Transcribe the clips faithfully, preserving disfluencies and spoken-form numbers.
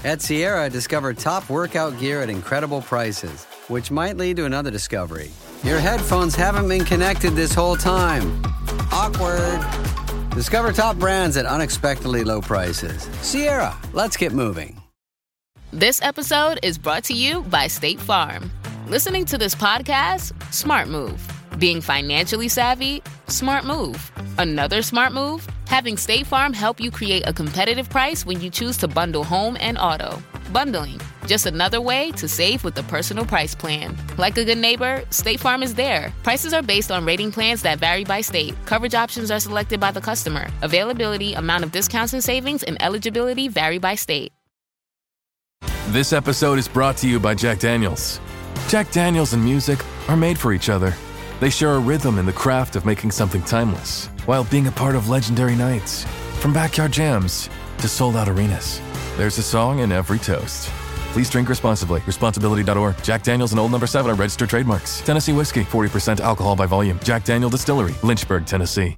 At Sierra, discover top workout gear at incredible prices, which might lead to another discovery. Your headphones haven't been connected this whole time. Awkward. Discover top brands at unexpectedly low prices. Sierra, let's get moving. This episode is brought to you by State Farm. Listening to this podcast? Smart move. Being financially savvy? Smart move. Another smart move? Having State Farm help you create a competitive price when you choose to bundle home and auto. Bundling, just another way to save with the Personal Price Plan. Like a good neighbor, State Farm is there. Prices are based on rating plans that vary by state. Coverage options are selected by the customer. Availability, amount of discounts and savings, and eligibility vary by state. This episode is brought to you by Jack Daniels. Jack Daniels and music are made for each other. They share a rhythm in the craft of making something timeless, while being a part of legendary nights. From backyard jams to sold-out arenas, there's a song in every toast. Please drink responsibly. Responsibility dot org. Jack Daniels and Old Number seven are registered trademarks. Tennessee Whiskey, forty percent alcohol by volume. Jack Daniel Distillery, Lynchburg, Tennessee.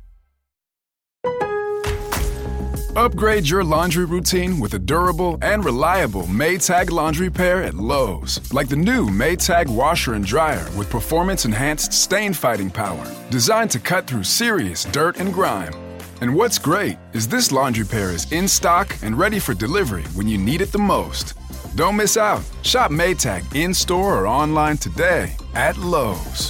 Upgrade your laundry routine with a durable and reliable Maytag laundry pair at Lowe's. Like the new Maytag washer and dryer with performance-enhanced stain-fighting power. Designed to cut through serious dirt and grime. And what's great is this laundry pair is in stock and ready for delivery when you need it the most. Don't miss out. Shop Maytag in-store or online today at Lowe's.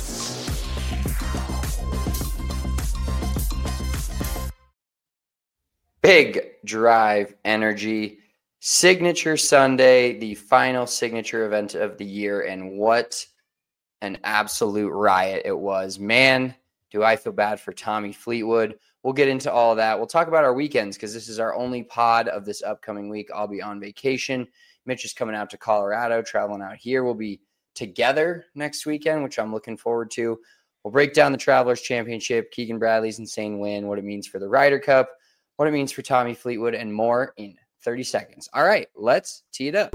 Big Drive Energy Signature Sunday, the final signature event of the year, and what an absolute riot it was. Man, do I feel bad for Tommy Fleetwood. We'll get into all of that. We'll talk about our weekends because this is our only pod of this upcoming week. I'll be on vacation. Mitch is coming out to Colorado, traveling out here. We'll be together next weekend, which I'm looking forward to. We'll break down the Travelers Championship, Keegan Bradley's insane win, what it means for the Ryder Cup, what it means for Tommy Fleetwood, and more in thirty seconds. All right, let's tee it up.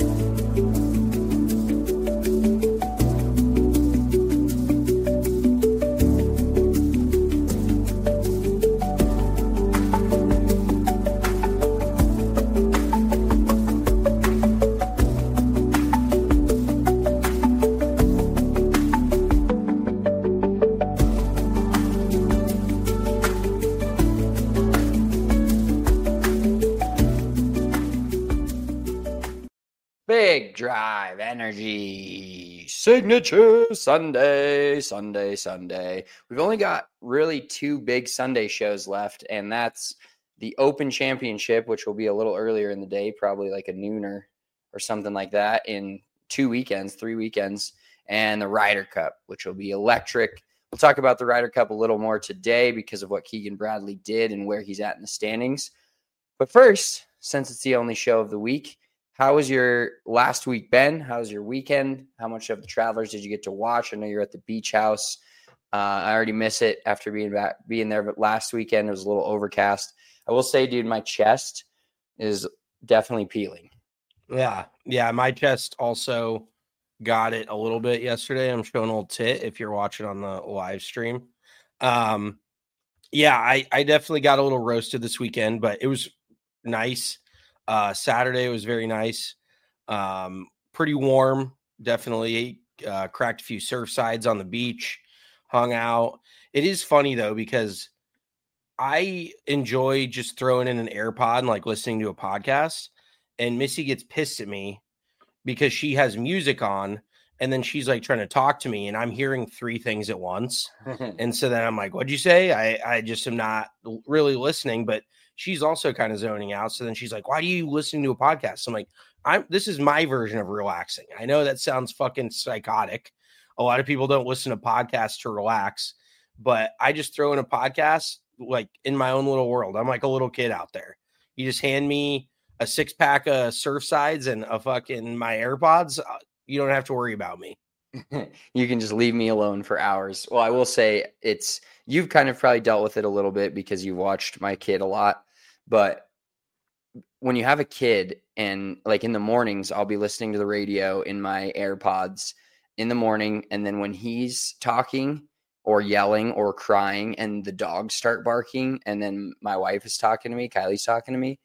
Big Drive Energy Signature Sunday, Sunday, Sunday. We've only got really two big Sunday shows left, and that's the Open Championship, which will be a little earlier in the day, probably like a nooner or something like that in two weekends, three weekends, and the Ryder Cup, which will be electric. We'll talk about the Ryder Cup a little more today because of what Keegan Bradley did and where he's at in the standings. But first, since it's the only show of the week, how was your last week, Ben? How was your weekend? How much of the Travelers did you get to watch? I know you're at the beach house. Uh, I already miss it after being back, being there. But last weekend it was a little overcast. I will say, dude, my chest is definitely peeling. Yeah, yeah. My chest also got it a little bit yesterday. I'm showing old tit if you're watching on the live stream. Um, yeah, I, I definitely got a little roasted this weekend, but it was nice. Uh, Saturday was very nice. Um, pretty warm, definitely. Uh, cracked a few surf sides on the beach, hung out. It is funny, though, because I enjoy just throwing in an AirPod and like listening to a podcast. And Missy gets pissed at me because she has music on and then she's like trying to talk to me and I'm hearing three things at once. And so then I'm like, what'd you say? I, I just am not really listening, but she's also kind of zoning out. So then she's like, why do you listen to a podcast? I'm like, I'm, this is my version of relaxing. I know that sounds fucking psychotic. A lot of people don't listen to podcasts to relax, but I just throw in a podcast like in my own little world. I'm like a little kid out there. You just hand me a six pack of surf sides and a fucking my AirPods. You don't have to worry about me. You can just leave me alone for hours. Well, I will say it's, you've kind of probably dealt with it a little bit because you watched my kid a lot. But when you have a kid and like in the mornings, I'll be listening to the radio in my AirPods in the morning. And then when he's talking or yelling or crying and the dogs start barking, and then my wife is talking to me, Kylie's talking to me,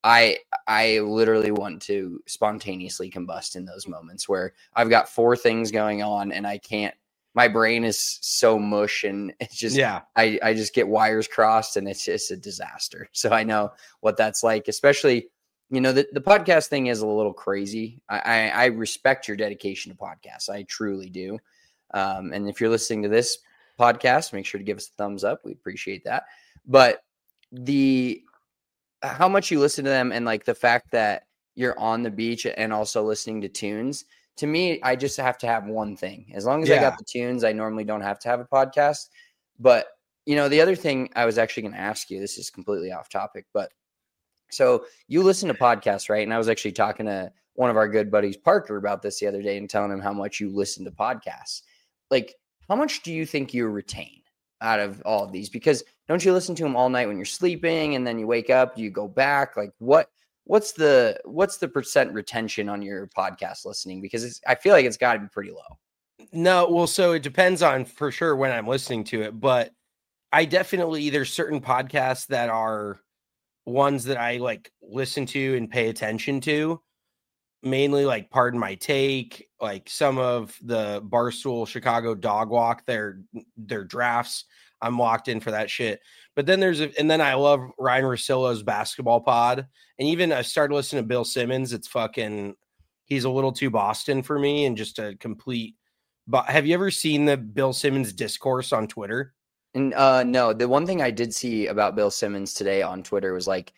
I I literally want to spontaneously combust in those moments where I've got four things going on and I can't, my brain is so mush and it's just, yeah, I, I just get wires crossed and it's just a disaster. So I know what that's like, especially, you know, the, the podcast thing is a little crazy. I, I, I respect your dedication to podcasts. I truly do. Um, and if you're listening to this podcast, make sure to give us a thumbs up. We appreciate that. But the, how much you listen to them and like the fact that you're on the beach and also listening to tunes, to me, I just have to have one thing. As long as yeah. I got the tunes, I normally don't have to have a podcast. But, you know, the other thing I was actually going to ask you, this is completely off topic, but so you listen to podcasts, right? And I was actually talking to one of our good buddies, Parker, about this the other day and telling him how much you listen to podcasts. Like, how much do you think you retain out of all of these? Because don't you listen to them all night when you're sleeping and then you wake up, you go back? Like what, what's the, what's the percent retention on your podcast listening? Because it's, I feel like it's gotta be pretty low. No, well, so it depends on for sure when I'm listening to it, but I definitely, there's certain podcasts that are ones that I like listen to and pay attention to, mainly like Pardon My Take, like some of the Barstool Chicago Dog Walk, their their drafts. I'm locked in for that shit. But then there's a, and then I love Ryan Russillo's basketball pod. And even I started listening to Bill Simmons. It's fucking, he's a little too Boston for me and just a complete. But have you ever seen the Bill Simmons discourse on Twitter? And uh, no, the one thing I did see about Bill Simmons today on Twitter was like,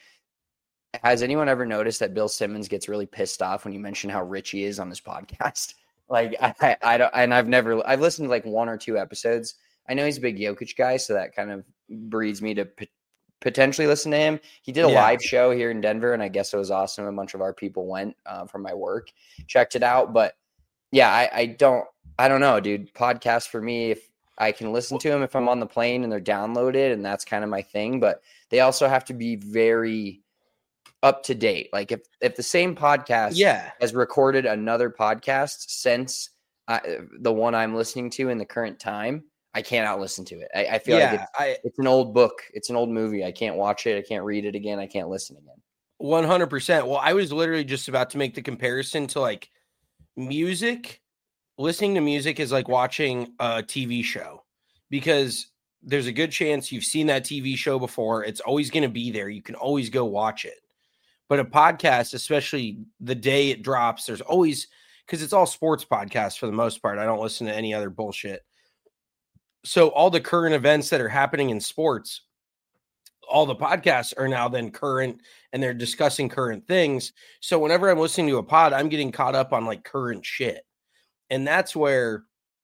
has anyone ever noticed that Bill Simmons gets really pissed off when you mention how rich he is on this podcast? Like, I, I, I don't, and I've never, I've listened to like one or two episodes. I know he's a big Jokic guy, so that kind of breeds me to p- potentially listen to him. He did a Yeah. live show here in Denver, and I guess it was awesome. A bunch of our people went uh, from my work, checked it out. But yeah, I, I don't, I don't know, dude. Podcasts for me, if I can listen to them if I'm on the plane and they're downloaded, and that's kind of my thing. But they also have to be very up to date. Like if if the same podcast Yeah. has recorded another podcast since uh, the one I'm listening to in the current time, I can't out listen to it. I, I feel Yeah, like it's, I it's an old book. It's an old movie. I can't watch it. I can't read it again. I can't listen again. one hundred percent. Well, I was literally just about to make the comparison to like music. Listening to music is like watching a T V show because there's a good chance you've seen that T V show before. It's always going to be there. You can always go watch it. But a podcast, especially the day it drops, there's always, because it's all sports podcasts for the most part. I don't listen to any other bullshit. So all the current events that are happening in sports, all the podcasts are now then current and they're discussing current things. So whenever I'm listening to a pod, I'm getting caught up on like current shit. And that's where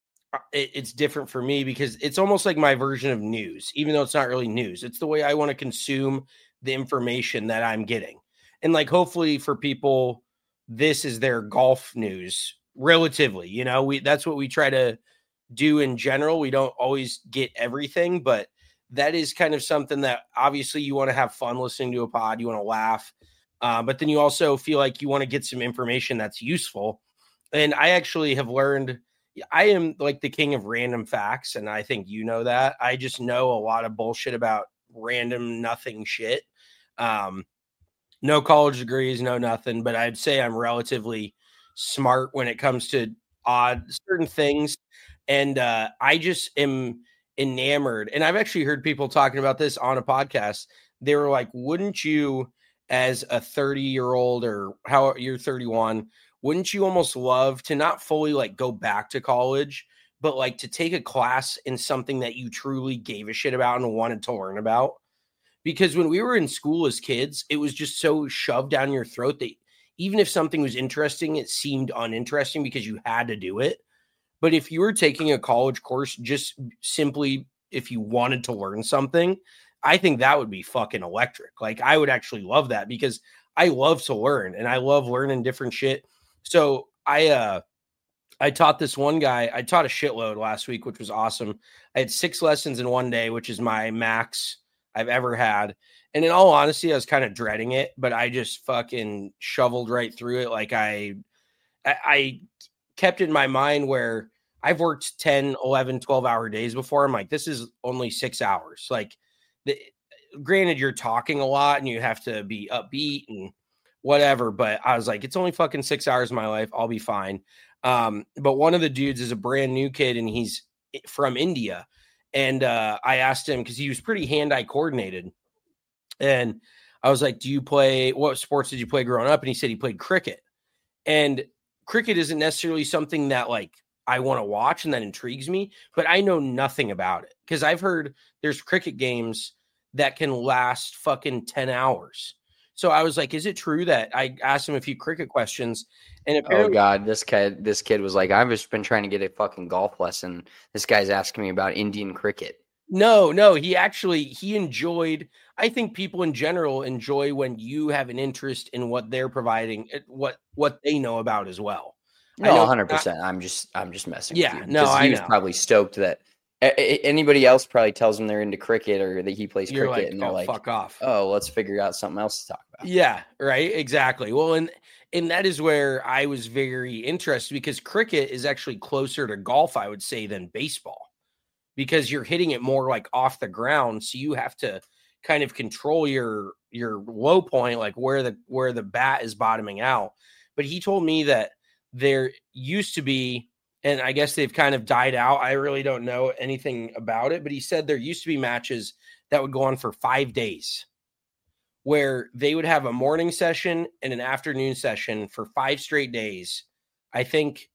it, it's different for me because it's almost like my version of news, even though it's not really news. It's the way I want to consume the information that I'm getting. And like, hopefully for people, this is their golf news relatively, you know, we, that's what we try to do in general. We don't always get everything, but that is kind of something that obviously you want to have fun listening to a pod. You want to laugh. Uh, but then you also feel like you want to get some information that's useful. And I actually have learned, I am like the king of random facts. And I think you know that. I just know a lot of bullshit about random nothing shit. Um, no college degrees, no nothing, but I'd say I'm relatively smart when it comes to odd certain things. And uh, I just am enamored. And I've actually heard people talking about this on a podcast. They were like, wouldn't you, as a thirty year old or how you're thirty-one, wouldn't you almost love to not fully like go back to college, but like to take a class in something that you truly gave a shit about and wanted to learn about? Because when we were in school as kids, it was just so shoved down your throat that even if something was interesting, it seemed uninteresting because you had to do it. But if you were taking a college course just simply if you wanted to learn something, I think that would be fucking electric. Like I would actually love that because I love to learn and I love learning different shit. So I uh I taught this one guy, I taught a shitload last week, which was awesome. I had six lessons in one day, which is my max I've ever had. And in all honesty, I was kind of dreading it, but I just fucking shoveled right through it. Like I, I, I kept it in my mind where I've worked ten, eleven, twelve hour days before. I'm like, this is only six hours. Like the, granted, you're talking a lot and you have to be upbeat and whatever. But I was like, it's only fucking six hours of my life. I'll be fine. Um, but one of the dudes is a brand new kid and he's from India. And uh, I asked him because he was pretty hand-eye coordinated. And I was like, do you play, what sports did you play growing up? And he said he played cricket. And cricket isn't necessarily something that like I want to watch and that intrigues me, but I know nothing about it because I've heard there's cricket games that can last fucking ten hours. So I was like, is it true that I asked him a few cricket questions and apparently, oh God, this kid, this kid was like, I've just been trying to get a fucking golf lesson. This guy's asking me about Indian cricket. No, no, he actually, he enjoyed, I think people in general enjoy when you have an interest in what they're providing, what, what they know about as well. No, one hundred percent. I'm just, I'm just messing yeah, with you. no, I he was know. probably stoked that a- anybody else probably tells him they're into cricket or that he plays You're cricket like, and they're oh, like, fuck off. Oh, let's figure out something else to talk about. Yeah, right. Exactly. Well, and, and that is where I was very interested because cricket is actually closer to golf, I would say, than baseball. Because you're hitting it more like off the ground. So you have to kind of control your your low point, like where the where the bat is bottoming out. But he told me that there used to be, and I guess they've kind of died out. I really don't know anything about it, but he said there used to be matches that would go on for five days where they would have a morning session and an afternoon session for five straight days. I think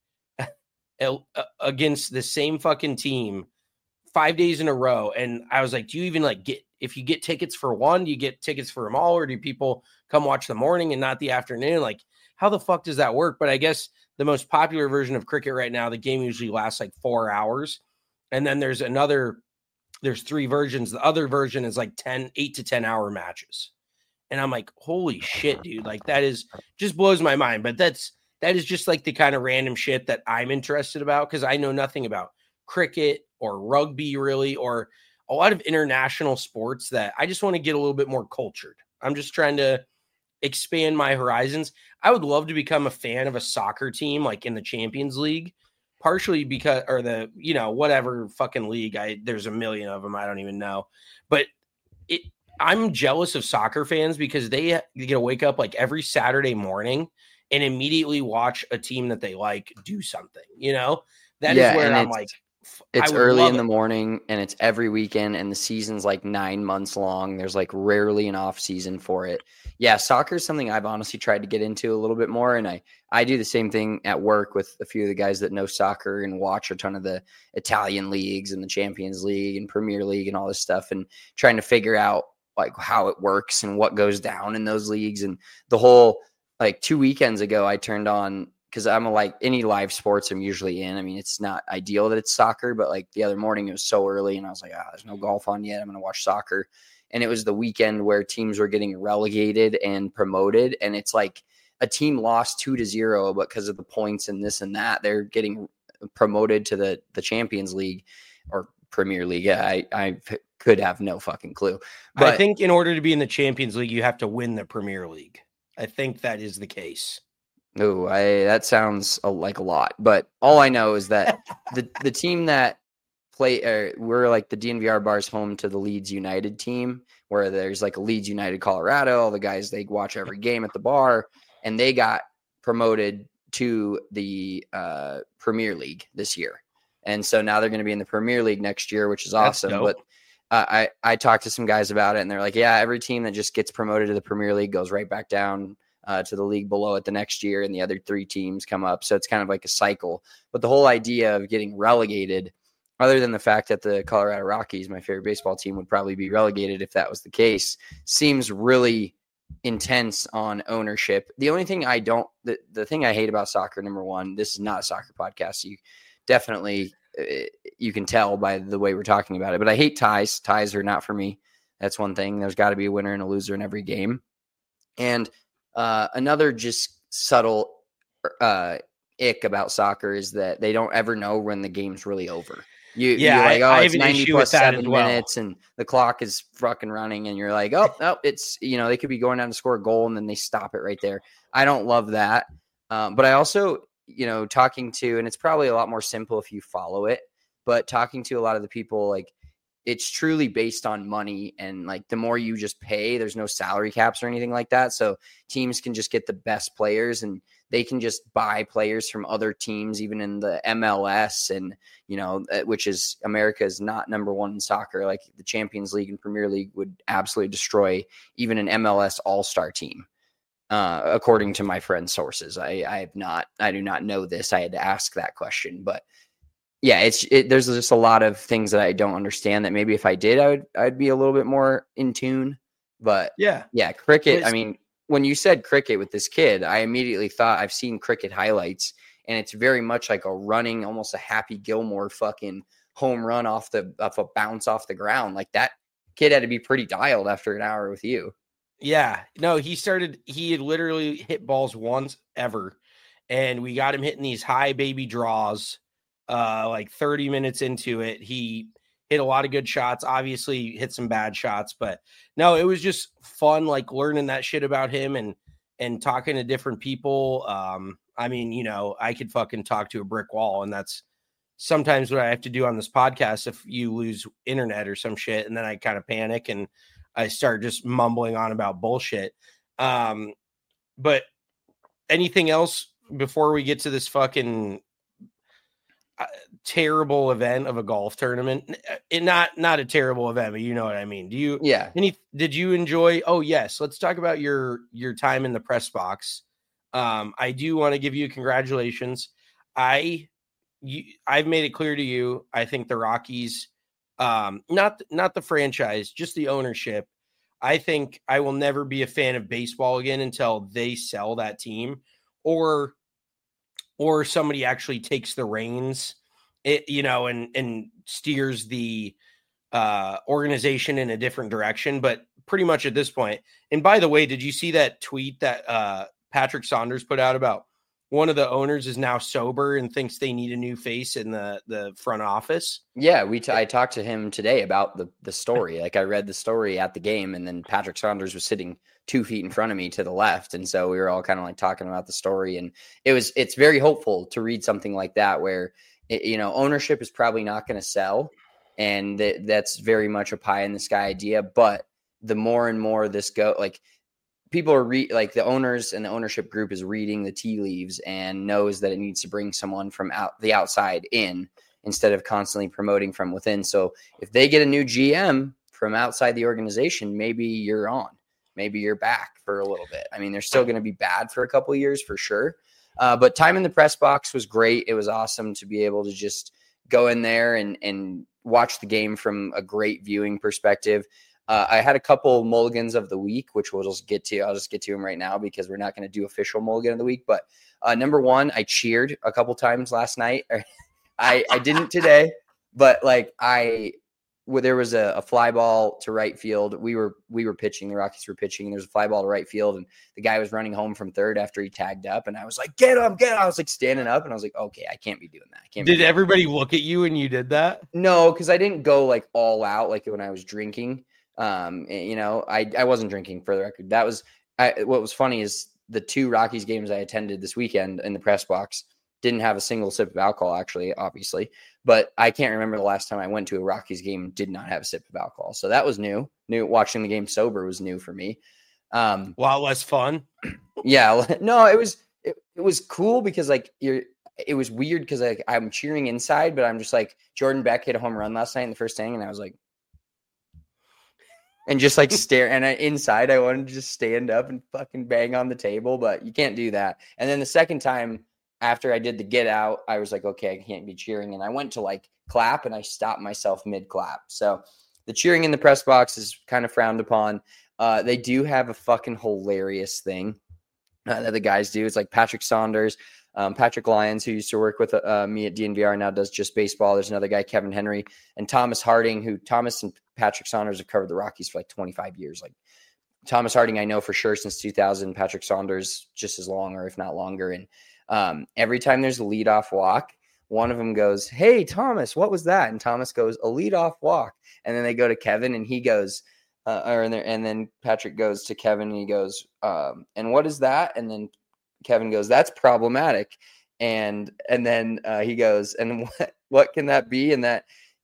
against the same fucking team. Five days in a row. And I was like, do you even like get, if you get tickets for one, do you get tickets for them all? Or do people come watch the morning and not the afternoon? Like, how the fuck does that work? But I guess the most popular version of cricket right now, the game usually lasts like four hours. And then there's another, there's three versions. The other version is like ten, eight to ten hour matches. And I'm like, holy shit, dude. Like that is just blows my mind. But that's, that is just like the kind of random shit that I'm interested about. Cause I know nothing about cricket or rugby really, or a lot of international sports that I just want to get a little bit more cultured. I'm just trying to expand my horizons. I would love to become a fan of a soccer team, like in the Champions League, partially because, or the, you know, whatever fucking league. I, there's a million of them. I don't even know, but it, I'm jealous of soccer fans because they get to wake up like every Saturday morning and immediately watch a team that they like do something, you know, that yeah, is where I'm like, it's early in the morning and it's every weekend and the season's like nine months long. There's like rarely an off season for it. Yeah. Soccer is something I've honestly tried to get into a little bit more. And I, I do the same thing at work with a few of the guys that know soccer and watch a ton of the Italian leagues and the Champions League and Premier League and all this stuff and trying to figure out like how it works and what goes down in those leagues. And the whole, like two weekends ago, I turned on, because I'm a, like any live sports I'm usually in. I mean, it's not ideal that it's soccer, but like the other morning it was so early and I was like, ah, there's no golf on yet. I'm going to watch soccer. And it was the weekend where teams were getting relegated and promoted. And it's like a team lost two to zero, but because of the points and this and that, they're getting promoted to the, the Champions League or Premier League. I, I could have no fucking clue. But I think in order to be in the Champions League, you have to win the Premier League. I think that is the case. Oh, I that sounds a, like a lot, but all I know is that the the team that play, uh, we're like the D N V R bar's home to the Leeds United team, where there's like a Leeds United Colorado. All the guys, they watch every game at the bar, and they got promoted to the uh, Premier League this year, and so now they're going to be in the Premier League next year, which is awesome. But uh, I I talked to some guys about it, and they're like, yeah, every team that just gets promoted to the Premier League goes right back down Uh, to the league below it the next year, and the other three teams come up. So it's kind of like a cycle. But the whole idea of getting relegated, other than the fact that the Colorado Rockies, my favorite baseball team, would probably be relegated if that was the case, seems really intense on ownership. The only thing I don't, the, the thing I hate about soccer, number one, this is not a soccer podcast. So you definitely, uh, you can tell by the way we're talking about it, but I hate ties. Ties are not for me. That's one thing. There's got to be a winner and a loser in every game. And Uh, another just subtle uh, ick about soccer is that they don't ever know when the game's really over. You, yeah, you're like, oh, I, I it's ninety plus seven well. minutes and the clock is fucking running. And you're like, oh, no, it's, you know, they could be going down to score a goal and then they stop it right there. I don't love that. Um, but I also, you know, talking to, and it's probably a lot more simple if you follow it, but talking to a lot of the people, like it's truly based on money, and like the more you just pay, there's no salary caps or anything like that. So teams can just get the best players, and they can just buy players from other teams, even in the M L S, and, you know, which is America is not number one in soccer. Like the Champions League and Premier League would absolutely destroy even an M L S all-star team. Uh, according to my friend's sources. I, I have not, I do not know this. I had to ask that question, but yeah, it's it, there's just a lot of things that I don't understand that maybe if I did, I would I'd be a little bit more in tune. But yeah, yeah, cricket. It's, I mean, when you said cricket with this kid, I immediately thought I've seen cricket highlights, and it's very much like a running, almost a Happy Gilmore fucking home run off the off a bounce off the ground. Like that kid had to be pretty dialed after an hour with you. Yeah, no, he started. He had literally hit balls once ever, and we got him hitting these high baby draws. Uh, like thirty minutes into it, he hit a lot of good shots, obviously hit some bad shots, but no, it was just fun, like learning that shit about him and, and talking to different people. Um, I mean, you know, I could fucking talk to a brick wall, and that's sometimes what I have to do on this podcast. If you lose internet or some shit, and then I kind of panic and I start just mumbling on about bullshit. Um, but anything else before we get to this fucking Uh, terrible event of a golf tournament? It, not not a terrible event, but you know what I mean. Do you? Yeah. Any? Did you enjoy? Oh yes. Let's talk about your your time in the press box. Um, I do want to give you congratulations. I you, I've made it clear to you. I think the Rockies, um, not not the franchise, just the ownership. I think I will never be a fan of baseball again until they sell that team, or. or somebody actually takes the reins, it, you know, and, and steers the uh, organization in a different direction. But pretty much at this point, and by the way, did you see that tweet that uh, Patrick Saunders put out about one of the owners is now sober and thinks they need a new face in the, the front office? Yeah, we t- I talked to him today about the, the story. Like I read the story at the game, and then Patrick Saunders was sitting two feet in front of me to the left. And so we were all kind of like talking about the story, and it was, it's very hopeful to read something like that where, it, you know, ownership is probably not going to sell. And th- that's very much a pie in the sky idea. But the more and more this go, like people are re- like the owners and the ownership group is reading the tea leaves and knows that it needs to bring someone from out the outside in instead of constantly promoting from within. So if they get a new G M from outside the organization, maybe you're on. Maybe you're back for a little bit. I mean, they're still going to be bad for a couple of years for sure. Uh, but time in the press box was great. It was awesome to be able to just go in there and, and watch the game from a great viewing perspective. Uh, I had a couple mulligans of the week, which we'll just get to. I'll just get to them right now because we're not going to do official mulligan of the week. But uh, number one, I cheered a couple times last night. I, I didn't today, but like I – where there was a, a fly ball to right field. We were we were pitching. The Rockies were pitching. And there was a fly ball to right field, and the guy was running home from third after he tagged up. And I was like, "Get him, get him!" I was like standing up, and I was like, "Okay, I can't be doing that." I can't. Did everybody look at you when you did that? No, because I didn't go like all out like when I was drinking. Um, you know, I I wasn't drinking, for the record. That was I, what was funny is the two Rockies games I attended this weekend in the press box didn't have a single sip of alcohol, actually, obviously. But I can't remember the last time I went to a Rockies game and did not have a sip of alcohol. So that was new. New watching the game sober was new for me. Um, a lot less fun. Yeah. No, it was it, it was cool because like you're it was weird because like I'm cheering inside, but I'm just like Jordan Beck hit a home run last night in the first inning, and I was like, and just like stare. And I, inside, I wanted to just stand up and fucking bang on the table, but you can't do that. And then the second time, after I did the get out, I was like, okay, I can't be cheering. And I went to like clap, and I stopped myself mid clap. So the cheering in the press box is kind of frowned upon. Uh, they do have a fucking hilarious thing uh, that the guys do. It's like Patrick Saunders, um, Patrick Lyons, who used to work with uh, me at D N V R, now does just baseball. There's another guy, Kevin Henry, and Thomas Harding, who Thomas and Patrick Saunders have covered the Rockies for like twenty-five years. Like Thomas Harding, I know for sure since two thousand, Patrick Saunders just as long, or if not longer. And Um, every time there's a leadoff walk, one of them goes, "Hey, Thomas, what was that?" And Thomas goes, "A leadoff walk." And then they go to Kevin, and he goes, uh, or and, and then Patrick goes to Kevin, and he goes, um, "And what is that?" And then Kevin goes, "That's problematic." And and then uh, he goes, "And what what can that be?" And that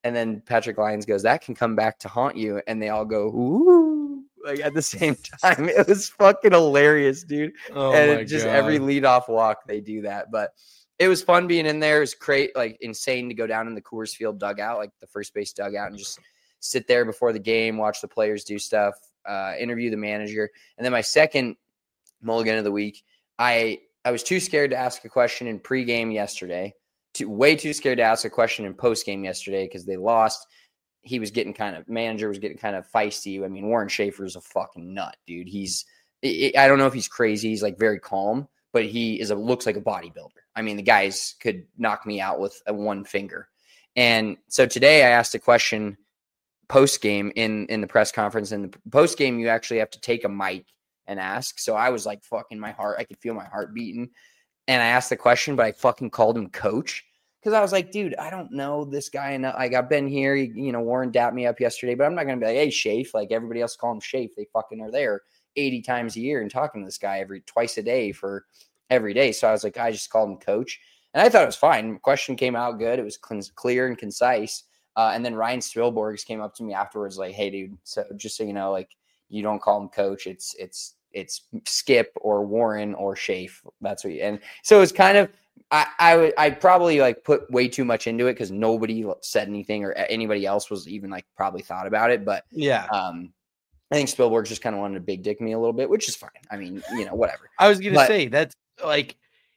And then Patrick Lyons goes, that can come back to haunt you. And they all go, ooh, like at the same time. It was fucking hilarious, dude. Oh and my it just God. every leadoff walk, they do that. But it was fun being in there. It was great, like insane to go down in the Coors Field dugout, like the first base dugout, and just sit there before the game, watch the players do stuff, uh, interview the manager. And then my second mulligan of the week, I I was too scared to ask a question in pregame yesterday. Too, way too scared to ask a question in postgame yesterday because they lost. He was getting kind of manager was getting kind of feisty. I mean, Warren Schaefer is a fucking nut, dude. He's I don't know if he's crazy. He's like very calm, but he is a looks like a bodybuilder. I mean, the guys could knock me out with a one finger. And so today I asked a question post game in in the press conference. And the post game, you actually have to take a mic and ask. So I was like, fucking my heart. I could feel my heart beating. And I asked the question, but I fucking called him coach. Because I was like, dude, I don't know this guy enough. Like, I've been here. You know, Warren dapped me up yesterday, but I'm not going to be like, hey, Shafe. Like everybody else call him Shafe. They fucking are there eighty times a year and talking to this guy every twice a day for every day. So I was like, I just called him coach. And I thought it was fine. The question came out good. It was clear and concise. Uh, and then Ryan Spilborghs came up to me afterwards like, hey, dude, so just so you know, like, you don't call him coach. It's it's it's Skip or Warren or Shafe. That's what you, and so it's kind of, I, I would, I probably like put way too much into it because nobody said anything or anybody else was even like probably thought about it. But yeah, um, I think Spielberg just kind of wanted to big dick me a little bit, which is fine. I mean, you know, whatever. I was going to But, say that's like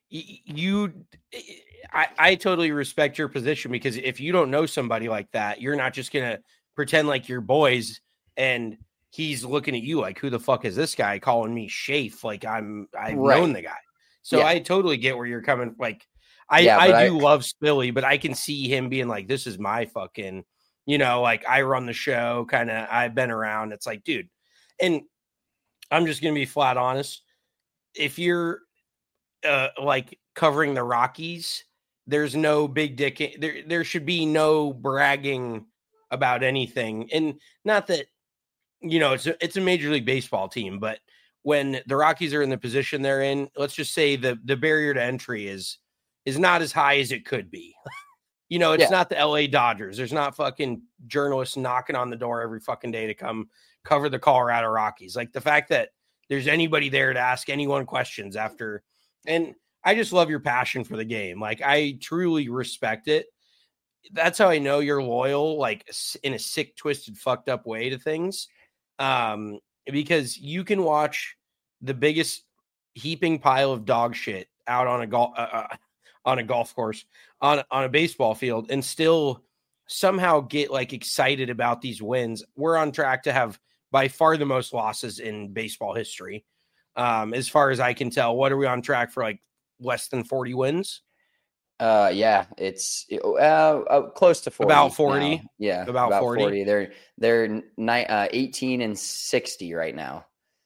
you, I, I totally respect your position because if you don't know somebody like that, you're not just going to pretend like you're boys and he's looking at you like, who the fuck is this guy calling me Shafe? Like I'm, I've Right. known the guy. So Yeah. I totally get where you're coming. Like I, Yeah, but I do I- love Spilly, but I can see him being like, this is my fucking, you know, like I run the show kind of, I've been around. It's like, dude, and I'm just going to be flat honest. If you're uh, like covering the Rockies, there's no big dick. There, there should be no bragging about anything. And not that, you know, it's a, it's a Major League Baseball team, but when the Rockies are in the position they're in, let's just say the, the barrier to entry is, is not as high as it could be. You know, it's Yeah. not the L A Dodgers. There's not fucking journalists knocking on the door every fucking day to come cover the Colorado Rockies. Like the fact that there's anybody there to ask anyone questions after. And I just love your passion for the game. Like I truly respect it. That's how I know you're loyal, like in a sick, twisted, fucked up way to things. Um, because you can watch the biggest heaping pile of dog shit out on a golf, uh, uh, on a golf course, on, on a baseball field and still somehow get like excited about these wins. We're on track to have by far the most losses in baseball history. Um, as far as I can tell, what are we on track for? Like less than forty wins? Uh, yeah, it's uh, uh, close to forty. About forty? now. Yeah, About forty? They're they're ni- uh, eighteen and sixty right now.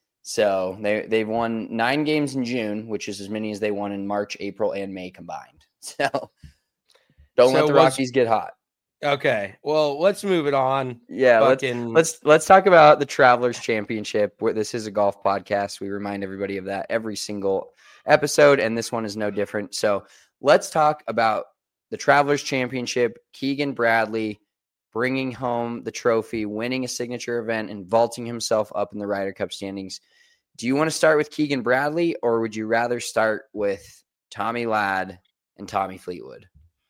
So they they've won nine games in June, which is as many as they won in March, April, and May combined. So don't So let the was- Rockies get hot. Okay. Well, let's move it on. Yeah, let's, Fucking- let's let's talk about the Travelers Championship. Where this is a golf podcast, we remind everybody of that every single episode, and this one is no different. So let's talk about the Travelers Championship. Keegan Bradley bringing home the trophy, winning a signature event, and vaulting himself up in the Ryder Cup standings. Do you want to start with Keegan Bradley, or would you rather start with Tommy Ladd and Tommy Fleetwood?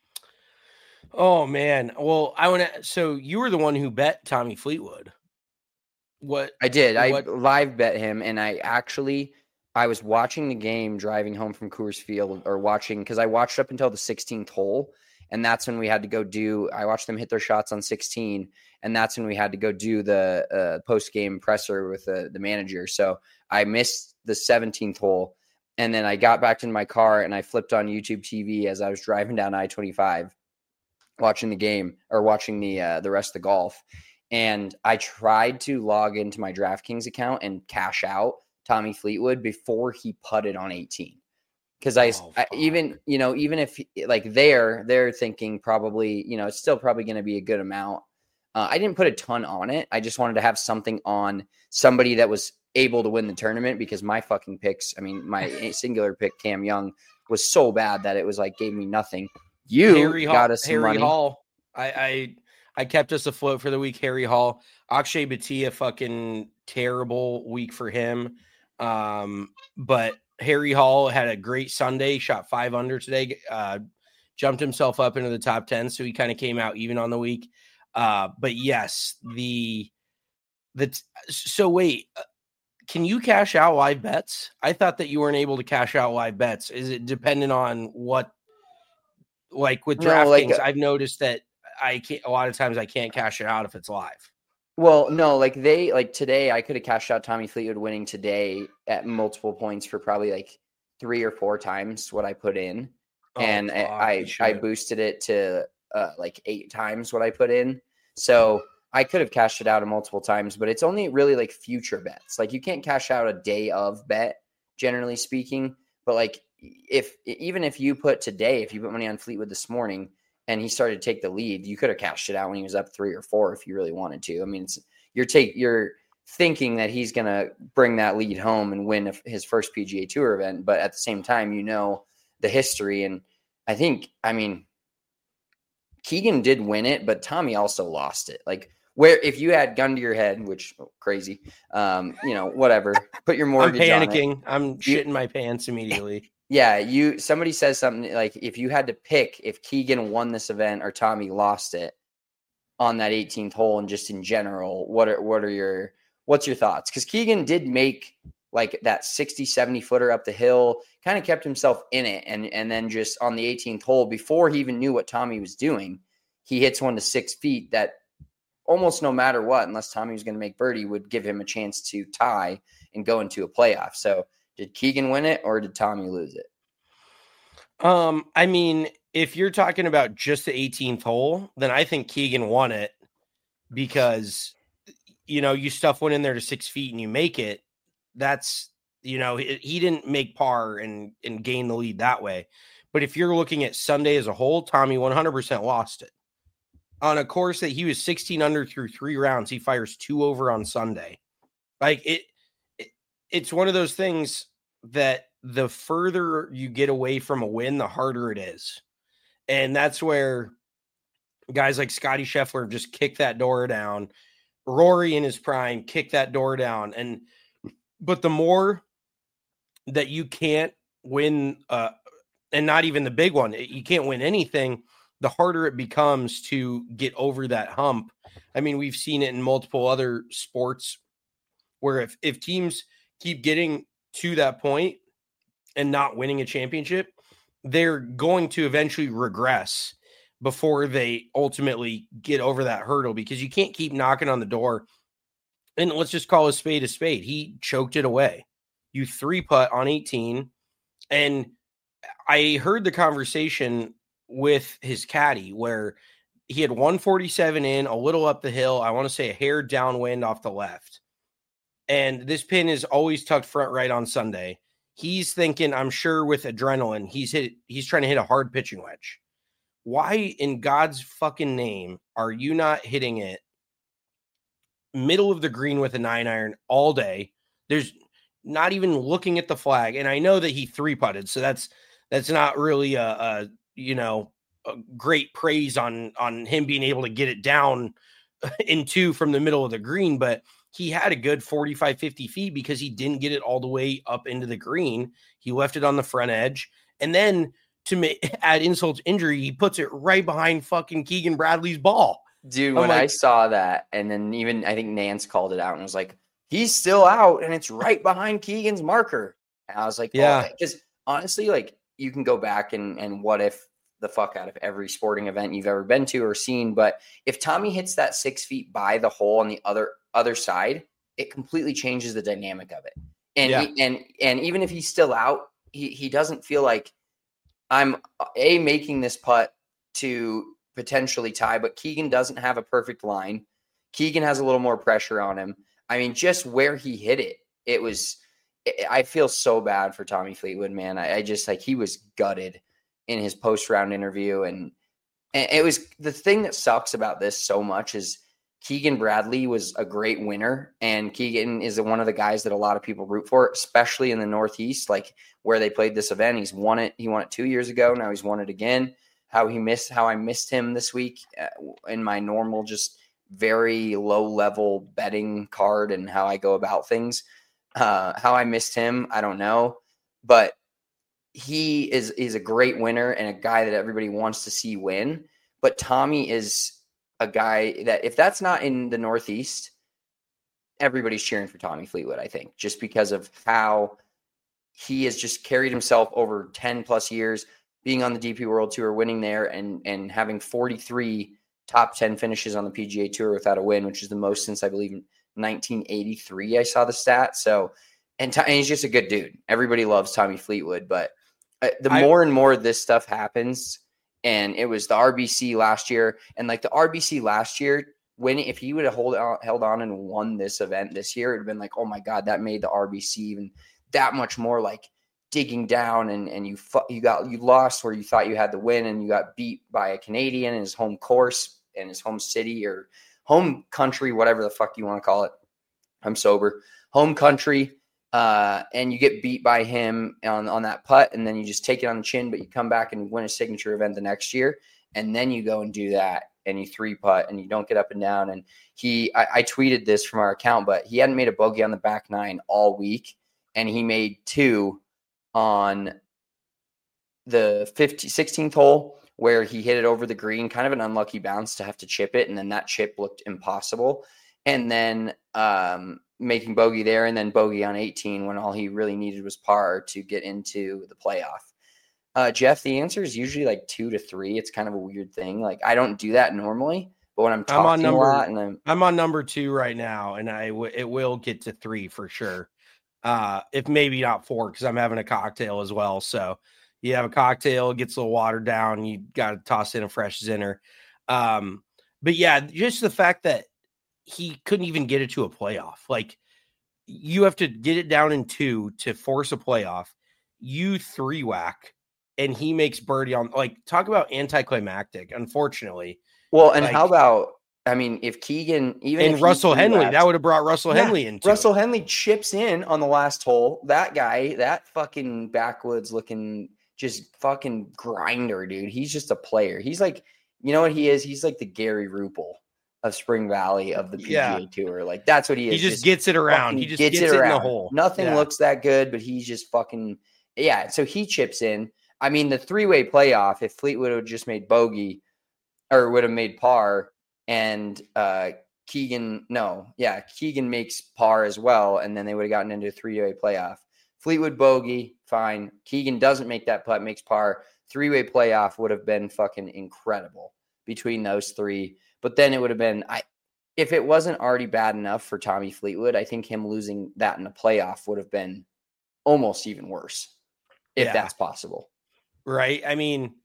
Oh man. Well, I want to. So you were the one who bet Tommy Fleetwood. What? I did. I What- live bet him, and I actually I was watching the game driving home from Coors Field, or watching because I watched up until the sixteenth hole, and that's when we had to go do. I watched them hit their shots on sixteen, and that's when we had to go do the uh, post game presser with the the manager. So I missed the seventeenth hole, and then I got back in my car and I flipped on YouTube T V as I was driving down I twenty-five, watching the game or watching the uh, the rest of the golf. And I tried to log into my DraftKings account and cash out Tommy Fleetwood before he putted on eighteen. Because I, Oh, I even, you know, even if like they're, they're thinking probably, you know, it's still probably going to be a good amount. Uh, I didn't put a ton on it. I just wanted to have something on somebody that was able to win the tournament because my fucking picks, I mean, my singular pick, Cam Young, was so bad that it was like gave me nothing. You Harry got Hall, us some Harry money. Hall. I, I I kept us afloat for the week. Harry Hall, Akshay Bhatia, fucking terrible week for him. Um, but Harry Hall had a great Sunday, shot five under today, uh, jumped himself up into the top ten. So he kind of came out even on the week. Uh, but yes, the, the, so wait, can you cash out live bets? I thought that you weren't able to cash out live bets. Is it dependent on what, like with DraftKings, no, like a, I've noticed that I can't, a lot of times I can't cash it out if it's live. Well, no, like they, like today I could have cashed out Tommy Fleetwood winning today at multiple points for probably like three or four times what I put in. Oh, and God, I, I, I boosted it to uh, like eight times what I put in. So I could have cashed it out a multiple times, but it's only really like future bets. Like you can't cash out a day of bet, generally speaking. But like if, even if you put today, if you put money on Fleetwood this morning, and he started to take the lead, you could have cashed it out when he was up three or four if you really wanted to. I mean, it's, you're take you're thinking that he's going to bring that lead home and win his first P G A Tour event, but at the same time, you know the history. And I think, I mean, Keegan did win it, but Tommy also lost it. Like, where if you had gun to your head, which oh, crazy, um, you know, whatever, put your mortgage I'm panicking. on it. I'm shitting my pants immediately. Yeah, you somebody says something like if you had to pick if Keegan won this event or Tommy lost it on that eighteenth hole and just in general, what are what are your what's your thoughts? Because Keegan did make like that sixty, seventy footer up the hill, kind of kept himself in it, and and then just on the eighteenth hole, before he even knew what Tommy was doing, he hits one to six feet that almost no matter what, unless Tommy was going to make birdie, would give him a chance to tie and go into a playoff. So did Keegan win it or did Tommy lose it? Um, I mean, if you're talking about just the eighteenth hole, then I think Keegan won it because, you know, you stuff one in there to six feet and you make it. That's, you know, he, he didn't make par and, and gain the lead that way. But if you're looking at Sunday as a whole, Tommy one hundred percent lost it. On a course that he was sixteen under through three rounds, he fires two over on Sunday. Like it, it it's one of those things that the further you get away from a win, the harder it is. And that's where guys like Scotty Scheffler just kick that door down. Rory in his prime, kick that door down. And, but the more that you can't win, uh, and not even the big one, you can't win anything, the harder it becomes to get over that hump. I mean, we've seen it in multiple other sports where if, if teams keep getting to that point and not winning a championship, they're going to eventually regress before they ultimately get over that hurdle, because you can't keep knocking on the door. And let's just call a spade a spade. He choked it away. You three putt on eighteen. And I heard the conversation with his caddy where he had one forty-seven in, a little up the hill. I want to say a hair downwind off the left. And this pin is always tucked front right on Sunday. He's thinking, I'm sure with adrenaline, he's hit, he's trying to hit a hard pitching wedge. Why in God's fucking name are you not hitting it middle of the green with a nine iron all day? There's not even looking at the flag. And I know that he three putted, so that's, that's not really a, a you know, a great praise on, on him being able to get it down in two from the middle of the green, but he had a good forty-five, fifty feet because he didn't get it all the way up into the green. He left it on the front edge. And then to make, add insult to injury, he puts it right behind fucking Keegan Bradley's ball. Dude, I'm when like, I saw that, and then even I think Nance called it out and was like, he's still out and it's right behind Keegan's marker. And I was like, yeah, because oh, honestly, like you can go back and, and what if the fuck out of every sporting event you've ever been to or seen. But if Tommy hits that six feet by the hole on the other other side, it completely changes the dynamic of it. And yeah. he, and and even if he's still out, he he doesn't feel like I'm a making this putt to potentially tie, but Keegan doesn't have a perfect line. Keegan has a little more pressure on him. I mean, just where he hit it, it was, I feel so bad for Tommy Fleetwood, man. I, I just like, he was gutted in his post round interview. And, and it was the thing that sucks about this so much is Keegan Bradley was a great winner. And Keegan is one of the guys that a lot of people root for, especially in the Northeast, like where they played this event. He's won it. He won it two years ago. Now he's won it again. how he missed, how I missed him this week in my normal, just very low level betting card and how I go about things. Uh, how I missed him, I don't know, but he is, is a great winner and a guy that everybody wants to see win. But Tommy is a guy that if that's not in the Northeast, everybody's cheering for Tommy Fleetwood, I think, just because of how he has just carried himself over ten plus years, being on the D P World Tour, winning there, and and having forty-three top ten finishes on the P G A Tour without a win, which is the most since I believe nineteen eighty-three. I saw the stat. So, and, and he's just a good dude. Everybody loves Tommy Fleetwood, but uh, the I, more and more this stuff happens, and it was the R B C last year, and like the R B C last year, when if he would have hold on, held on and won this event this year, it'd have been like, oh my God, that made the R B C even that much more like digging down, and and you you got you lost where you thought you had the win, and you got beat by a Canadian in his home course in his home city or home country, whatever the fuck you want to call it. I'm sober. Home country, uh, and you get beat by him on on that putt, and then you just take it on the chin, but you come back and win a signature event the next year, and then you go and do that, and you three putt, and you don't get up and down. And he, I, I tweeted this from our account, but he hadn't made a bogey on the back nine all week. And he made two on the fifteen, sixteenth hole where he hit it over the green, kind of an unlucky bounce to have to chip it. And then that chip looked impossible. And then um, making bogey there, and then bogey on eighteen when all he really needed was par to get into the playoff. Uh, Jeff, the answer is usually like two to three. It's kind of a weird thing. Like I don't do that normally, but when I'm talking I'm on number, a lot and I'm, I'm on number two right now, and I w- it will get to three for sure. Uh, if maybe not four, because I'm having a cocktail as well. So you have a cocktail, it gets a little watered down. You got to toss in a fresh Zinner. Um, but yeah, just the fact that he couldn't even get it to a playoff. Like you have to get it down in two to force a playoff. You three whack, and he makes birdie on. Like talk about anticlimactic. Unfortunately. Well, and like, how about? I mean, if Keegan, even and if Russell Henley, laps, that would have brought Russell yeah, Henley into Russell it. Henley chips in on the last hole. That guy, that fucking backwoods looking, just fucking grinder, dude. He's just a player. He's like, you know what he is? He's like the Gary Ruppel of Spring Valley of the P G A yeah. Tour. Like that's what he is. He just, just gets it around. He just gets, gets it, it in the hole. Nothing yeah. looks that good, but he's just fucking yeah. So he chips in. I mean, the three-way playoff. If Fleetwood would have just made bogey, or would have made par. And uh, Keegan, no, yeah, Keegan makes par as well, and then they would have gotten into a three-way playoff. Fleetwood bogey, fine. Keegan doesn't make that putt, makes par. Three-way playoff would have been fucking incredible between those three. But then it would have been, I, if it wasn't already bad enough for Tommy Fleetwood, I think him losing that in a playoff would have been almost even worse, if yeah. that's possible. Right. I mean,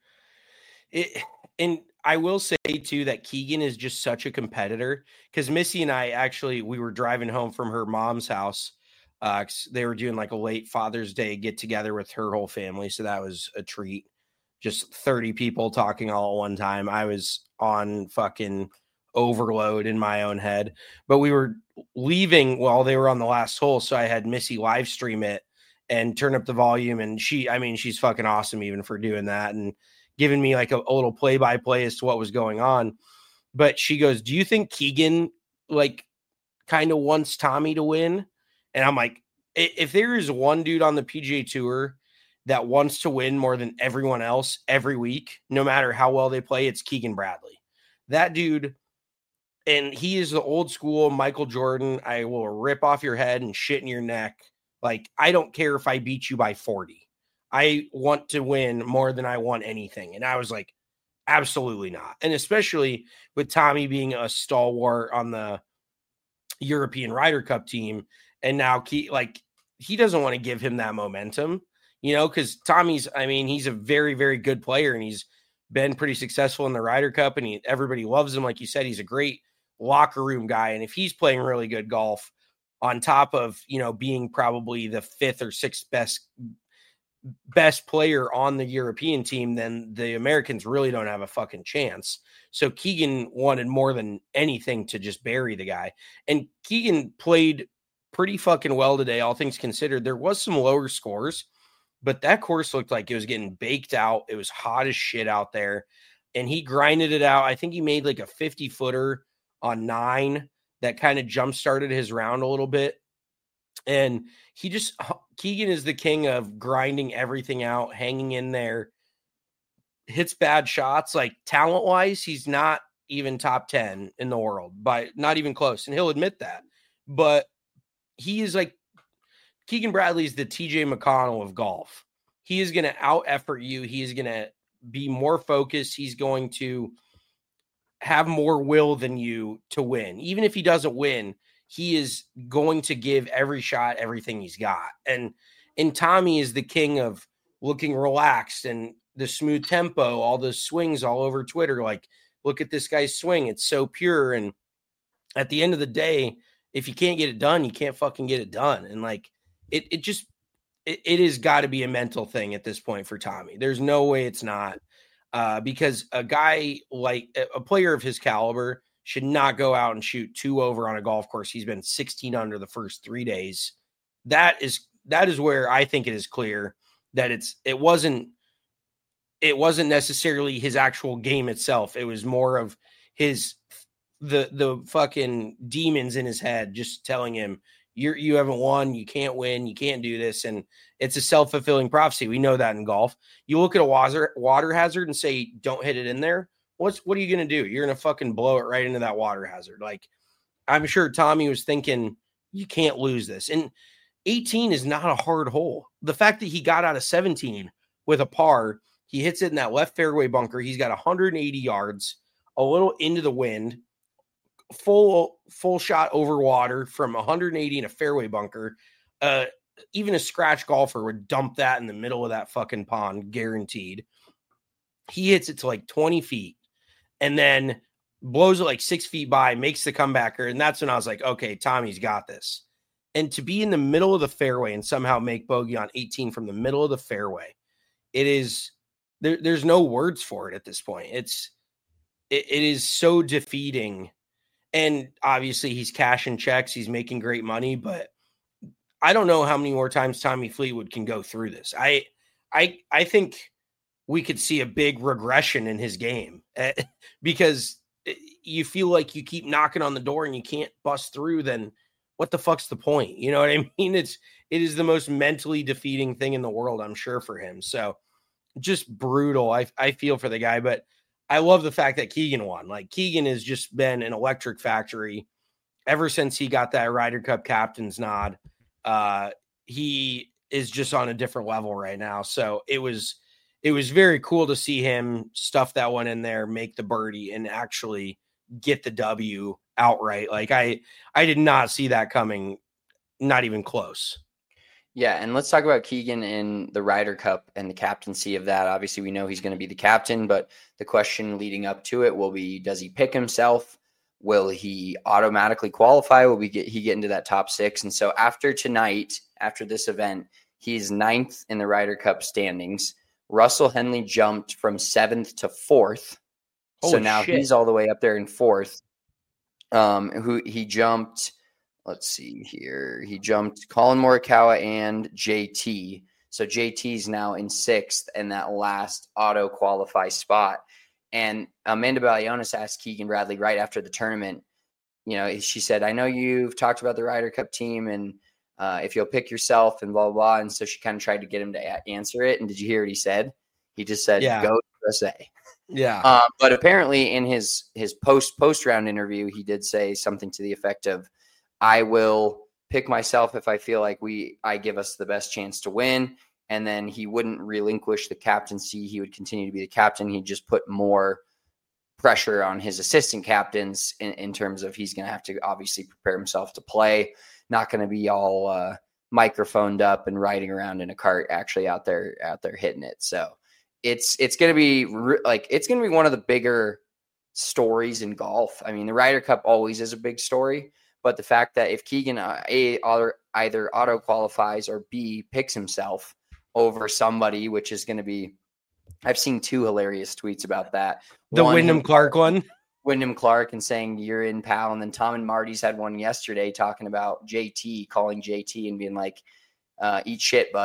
it, and I will say too that Keegan is just such a competitor, because Missy and I actually, we were driving home from her mom's house. Uh, they were doing like a late Father's Day get together with her whole family. So that was a treat. Just thirty people talking all at one time. I was on fucking overload in my own head, but we were leaving while they were on the last hole. So I had Missy live stream it and turn up the volume. And she, I mean, she's fucking awesome even for doing that and giving me like a, a little play by play as to what was going on. But she goes, do you think Keegan like kind of wants Tommy to win? And I'm like, if there is one dude on the P G A Tour that wants to win more than everyone else every week, no matter how well they play, it's Keegan Bradley. That dude, and he is the old school Michael Jordan. I will rip off your head and shit in your neck. Like, I don't care if I beat you by forty. I want to win more than I want anything. And I was like, absolutely not. And especially with Tommy being a stalwart on the European Ryder Cup team. And now he, like, he doesn't want to give him that momentum, you know, because Tommy's, I mean, he's a very, very good player, and he's been pretty successful in the Ryder Cup, and he, everybody loves him. Like you said, he's a great locker room guy. And if he's playing really good golf on top of, you know, being probably the fifth or sixth best, best player on the European team, then the Americans really don't have a fucking chance. So Keegan wanted more than anything to just bury the guy. And Keegan played pretty fucking well today, all things considered. There was some lower scores, but that course looked like it was getting baked out. It was hot as shit out there, and he grinded it out. I think he made like a fifty footer on nine that kind of jump started his round a little bit. And he just, Keegan is the king of grinding everything out, hanging in there, hits bad shots. Like talent wise, he's not even top ten in the world, but not even close. And he'll admit that, but he is like, Keegan Bradley's the T J McConnell of golf. He is going to out effort you. He is going to be more focused. He's going to have more will than you to win. Even if he doesn't win, he is going to give every shot everything he's got. And and Tommy is the king of looking relaxed and the smooth tempo, all the swings all over Twitter. Like, look at this guy's swing. It's so pure. And at the end of the day, if you can't get it done, you can't fucking get it done. And like, it it just, it, it has got to be a mental thing at this point for Tommy. There's no way it's not. Uh, because a guy like a player of his caliber should not go out and shoot two over on a golf course. He's been sixteen under the first three days. That is, that is where I think it is clear that it's, it wasn't, it wasn't necessarily his actual game itself. It was more of his, the, the fucking demons in his head, just telling him, You're, you haven't won. You can't win. You can't do this. And it's a self-fulfilling prophecy. We know that in golf. You look at a water, water hazard and say, don't hit it in there. What's, what are you going to do? You're going to fucking blow it right into that water hazard. Like, I'm sure Tommy was thinking, you can't lose this. And eighteen is not a hard hole. The fact that he got out of seventeen with a par, he hits it in that left fairway bunker. He's got one hundred eighty yards, a little into the wind, full full shot over water from one hundred eighty in a fairway bunker. Uh, even a scratch golfer would dump that in the middle of that fucking pond, guaranteed. He hits it to like twenty feet and then blows it like six feet by, makes the comebacker. And that's when I was like, okay, Tommy's got this. And to be in the middle of the fairway and somehow make bogey on eighteen from the middle of the fairway, it is, there, there's no words for it at this point. It's, it, it is so defeating. And obviously he's cashing checks. He's making great money, but I don't know how many more times Tommy Fleetwood can go through this. I, I, I think we could see a big regression in his game uh, because you feel like you keep knocking on the door and you can't bust through. Then what the fuck's the point? You know what I mean? It's, it is the most mentally defeating thing in the world, I'm sure, for him. So just brutal. I, I feel for the guy, but I love the fact that Keegan won. Like, Keegan has just been an electric factory ever since he got that Ryder Cup captain's nod. Uh, he is just on a different level right now. So it was, it was very cool to see him stuff that one in there, make the birdie, and actually get the W outright. Like, I, I did not see that coming, not even close. Yeah, and let's talk about Keegan in the Ryder Cup and the captaincy of that. Obviously, we know he's going to be the captain, but the question leading up to it will be, does he pick himself? Will he automatically qualify? Will we get he get into that top six? And so after tonight, after this event, he's ninth in the Ryder Cup standings. Russell Henley jumped from seventh to fourth. Holy so now shit. he's all the way up there in fourth. Um, who he jumped... Let's see here. He jumped Colin Morikawa and J T. So J T's now in sixth in that last auto qualify spot. And Amanda Balionis asked Keegan Bradley right after the tournament, you know, she said, I know you've talked about the Ryder Cup team and uh, if you'll pick yourself and blah, blah, blah. And so she kind of tried to get him to a- answer it. And did you hear what he said? He just said, Yeah. go U S A. Yeah. Uh, but apparently in his, his post post round interview, he did say something to the effect of, I will pick myself if I feel like we I give us the best chance to win. And then he wouldn't relinquish the captaincy. He would continue to be the captain. He'd just put more pressure on his assistant captains in, in terms of he's going to have to obviously prepare himself to play. Not going to be all uh, microphoned up and riding around in a cart, actually out there out there hitting it. So it's it's going to be re- like it's going to be one of the bigger stories in golf. I mean, the Ryder Cup always is a big story. But the fact that if Keegan uh, A, either, either auto qualifies or B, picks himself over somebody, which is going to be, I've seen two hilarious tweets about that. The one, Wyndham Clark one. Wyndham Clark and saying, you're in, pal. And then Tom and Marty's had one yesterday talking about J T, calling J T and being like, uh, eat shit, bud.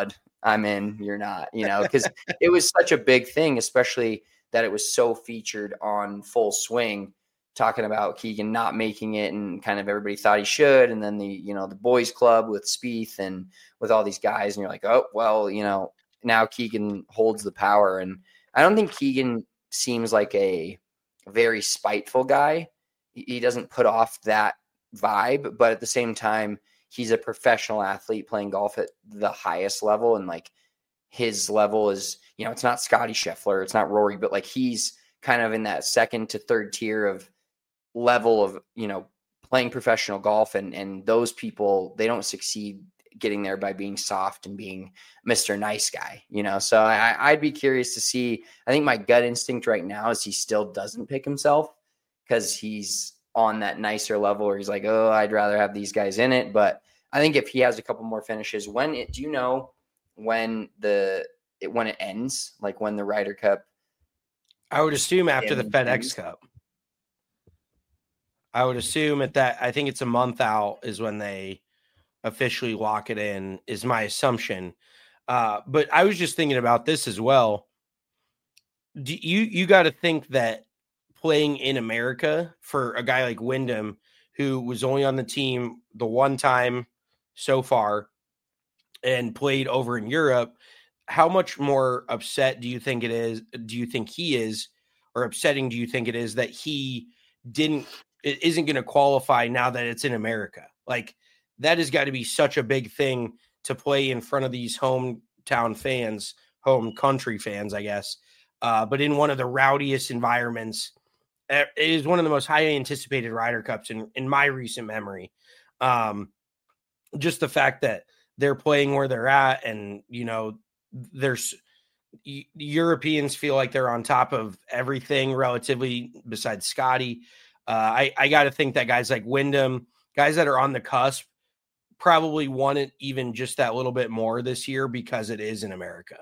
I'm in, you're not, you know, because it was such a big thing, especially that it was so featured on Full Swing, talking about Keegan not making it, and kind of everybody thought he should. And then the, you know, the boys club with Spieth and with all these guys, and you're like, oh, well, you know, now Keegan holds the power. And I don't think Keegan seems like a very spiteful guy. He doesn't put off that vibe, but at the same time, he's a professional athlete playing golf at the highest level. And like his level is, you know, it's not Scotty Scheffler, it's not Rory, but like he's kind of in that second to third tier of level of, you know, playing professional golf. And, and those people, they don't succeed getting there by being soft and being Mister Nice Guy, you know? So I, I'd be curious to see. I think my gut instinct right now is he still doesn't pick himself, because he's on that nicer level where he's like, oh, I'd rather have these guys in it. But I think if he has a couple more finishes, when it, do you know when the, it, when it ends, like when the Ryder Cup? I would assume after the FedEx ends? Cup. I would assume at that, I think it's a month out is when they officially lock it in, is my assumption. Uh, but I was just thinking about this as well. Do you, you got to think that playing in America for a guy like Wyndham, who was only on the team the one time so far and played over in Europe, how much more upset do you think it is? Do you think he is, or upsetting do you think it is that he didn't, it isn't going to qualify now that it's in America? Like, that has got to be such a big thing to play in front of these hometown fans, home country fans, I guess. Uh, but in one of the rowdiest environments. It is one of the most highly anticipated Ryder Cups in, in my recent memory. Um, just the fact that they're playing where they're at, and, you know, there's Europeans feel like they're on top of everything relatively besides Scotty. Uh, I, I got to think that guys like Wyndham, guys that are on the cusp, probably want it even just that little bit more this year because it is in America.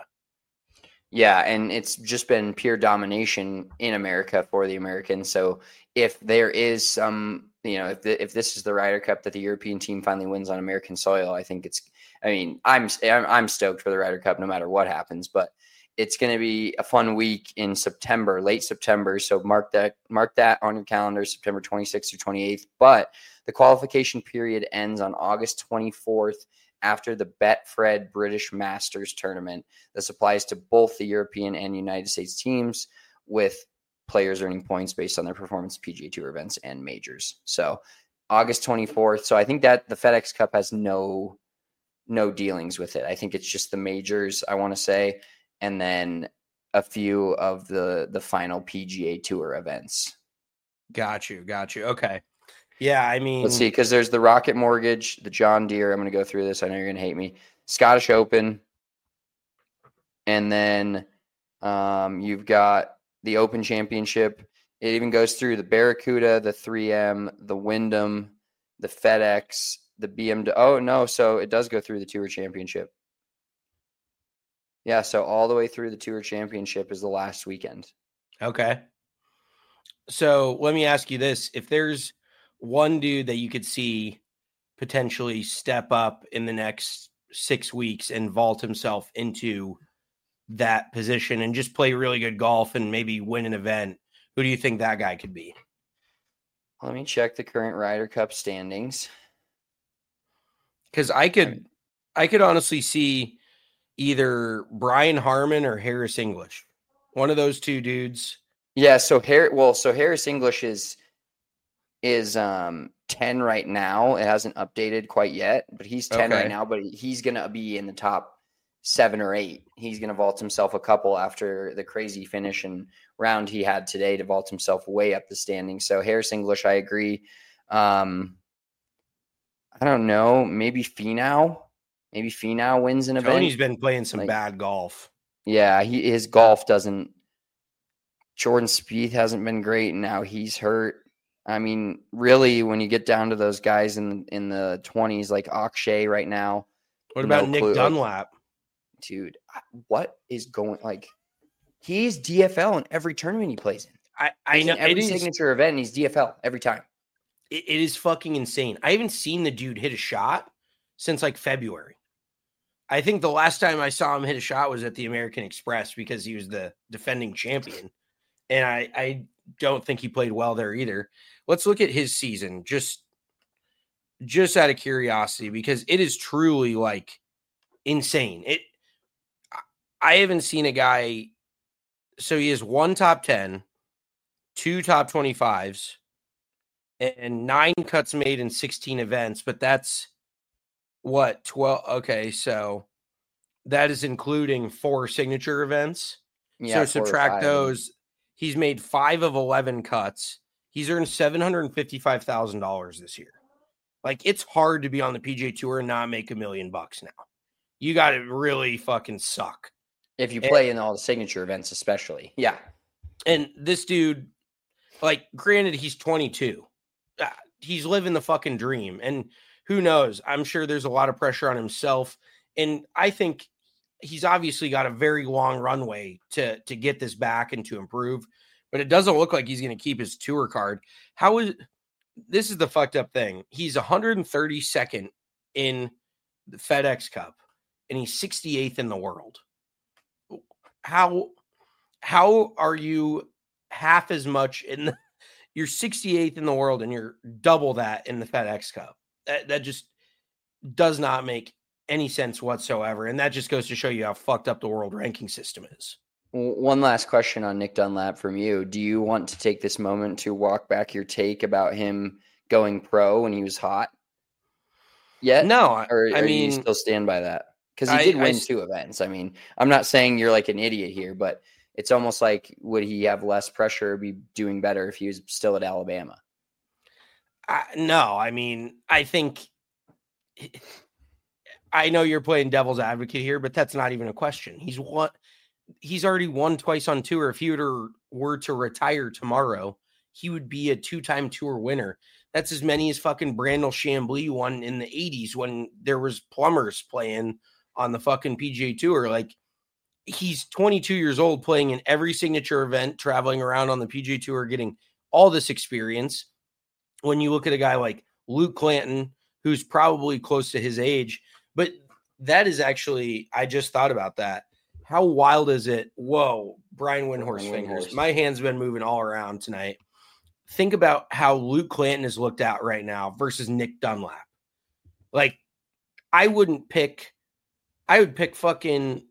Yeah, and it's just been pure domination in America for the Americans. So if there is some, you know, if the, if this is the Ryder Cup that the European team finally wins on American soil, I think it's, I mean, I'm I'm stoked for the Ryder Cup no matter what happens, but it's going to be a fun week in September, late September. So mark that mark that on your calendar, September twenty-sixth or twenty-eighth. But the qualification period ends on August twenty-fourth. After the Betfred British Masters tournament. This applies to both the European and United States teams, with players earning points based on their performance P G A Tour events and majors. So August twenty-fourth. So I think that the FedEx Cup has no, no dealings with it. I think it's just the majors, I want to say, and then a few of the, the final P G A Tour events. Got you. Got you. Okay. Yeah, I mean, let's see, because there's the Rocket Mortgage, the John Deere. I'm going to go through this. I know you're going to hate me. Scottish Open, and then um, you've got the Open Championship. It even goes through the Barracuda, the three M, the Wyndham, the FedEx, the B M W. Oh no, so it does go through the Tour Championship. Yeah, so all the way through the Tour Championship is the last weekend. Okay. So let me ask you this: if there's one dude that you could see potentially step up in the next six weeks and vault himself into that position and just play really good golf and maybe win an event, who do you think that guy could be? Let me check the current Ryder Cup standings. Because I could, I could honestly see either Brian Harman or Harris English, one of those two dudes. Yeah. So Harris, well, so Harris English is, is um ten right now. It hasn't updated quite yet, but he's ten Okay. right now, but he's going to be in the top seven or eight. He's going to vault himself a couple after the crazy finish and round he had today to vault himself way up the standings. So Harris English, I agree. Um, I don't know. Maybe Finau. Maybe Finau wins an event. Tony's been playing some Like- bad golf. Yeah, he his golf doesn't. Jordan Spieth hasn't been great, and now he's hurt. I mean, really, when you get down to those guys in in the twenties, like Akshay right now. What about no Nick clue. Dunlap? Dude, what is going like? He's D F L in every tournament he plays in. I, I He's know in every it is, signature event, and he's D F L every time. it, it is fucking insane. I haven't seen the dude hit a shot since like February. I think the last time I saw him hit a shot was at the American Express because he was the defending champion. And I, I don't think he played well there either. Let's look at his season just, just out of curiosity, because it is truly like insane. It, I haven't seen a guy. So he has one top ten, two top twenty-fives, and nine cuts made in sixteen events, but that's what, twelve? Okay, so that is including four signature events. Yeah, so subtract those. He's made five of eleven cuts. He's earned seven hundred fifty-five thousand dollars this year. Like, it's hard to be on the P G A Tour and not make a million bucks now. You got to really fucking suck. If you play and, in all the signature events, especially. Yeah. And this dude, like, granted, he's twenty-two. Uh, he's living the fucking dream. And who knows? I'm sure there's a lot of pressure on himself. And I think he's obviously got a very long runway to, to get this back and to improve. But it doesn't look like he's going to keep his tour card. How is this is the fucked up thing. He's one hundred thirty-second in the FedEx Cup, and he's sixty-eighth in the world. How how are you half as much in the you're sixty-eighth in the world and you're double that in the FedEx Cup? That, that just does not make any sense whatsoever. And that just goes to show you how fucked up the world ranking system is. One last question on Nick Dunlap from you. Do you want to take this moment to walk back your take about him going pro when he was hot? Yet? No, or, I or mean, do you still stand by that? Because he I, did win I, two events. I mean, I'm not saying you're like an idiot here, but it's almost like, would he have less pressure or be doing better if he was still at Alabama? I, no, I mean, I think I know you're playing devil's advocate here, but that's not even a question. He's won. He's already won twice on tour. If he were to, were to retire tomorrow, he would be a two-time tour winner. That's as many as fucking Brandel Chambly won in the eighties when there was plumbers playing on the fucking P G A Tour. Like, he's twenty-two years old, playing in every signature event, traveling around on the P G A Tour, getting all this experience. When you look at a guy like Luke Clanton, who's probably close to his age, but that is actually, I just thought about that. How wild is it? Whoa, Brian Windhorse Brian fingers. Windhorse. My hand's been moving all around tonight. Think about how Luke Clanton is looked at right now versus Nick Dunlap. Like, I wouldn't pick, I would pick fucking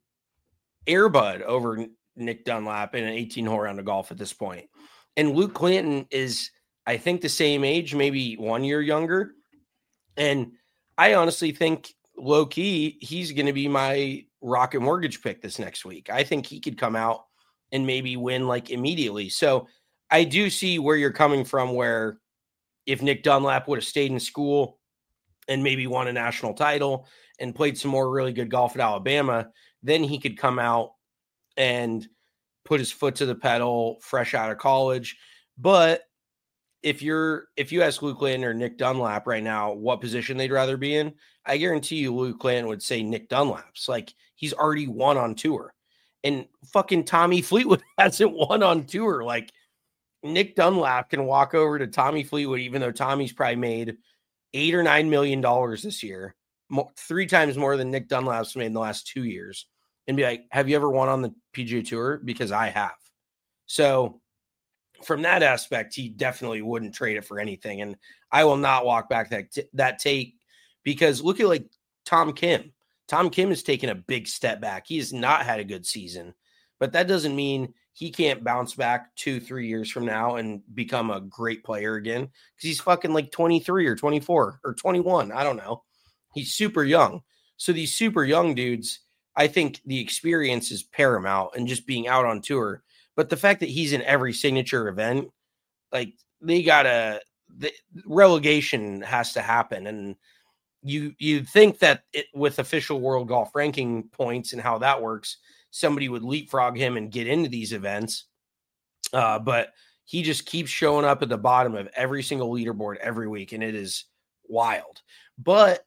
Airbud over Nick Dunlap in an eighteen-hole round of golf at this point. And Luke Clanton is, I think, the same age, maybe one year younger. And I honestly think, low-key, he's going to be my Rocket Mortgage pick this next week. I think he could come out and maybe win, like, immediately. So I do see where you're coming from, where if Nick Dunlap would have stayed in school and maybe won a national title and played some more really good golf at Alabama, then he could come out and put his foot to the pedal fresh out of college. But if you're, if you ask Luke Clanton or Nick Dunlap right now what position they'd rather be in, I guarantee you Luke Clanton would say Nick Dunlap's. Like, he's already won on tour. And fucking Tommy Fleetwood hasn't won on tour. Like, Nick Dunlap can walk over to Tommy Fleetwood, even though Tommy's probably made eight or nine million dollars this year, more, three times more than Nick Dunlap's made in the last two years, and be like, have you ever won on the P G A Tour? Because I have. So from that aspect, he definitely wouldn't trade it for anything. And I will not walk back that, t- that take, because look at like Tom Kim. Tom Kim has taken a big step back. He has not had a good season, but that doesn't mean he can't bounce back two, three years from now and become a great player again, because he's fucking like twenty-three or twenty-four or twenty-one. I don't know. He's super young. So these super young dudes, I think the experience is paramount and just being out on tour. But the fact that he's in every signature event, like, they gotta, the relegation has to happen. And you, you think that it, with official world golf ranking points and how that works, somebody would leapfrog him and get into these events. Uh, but he just keeps showing up at the bottom of every single leaderboard every week. And it is wild. But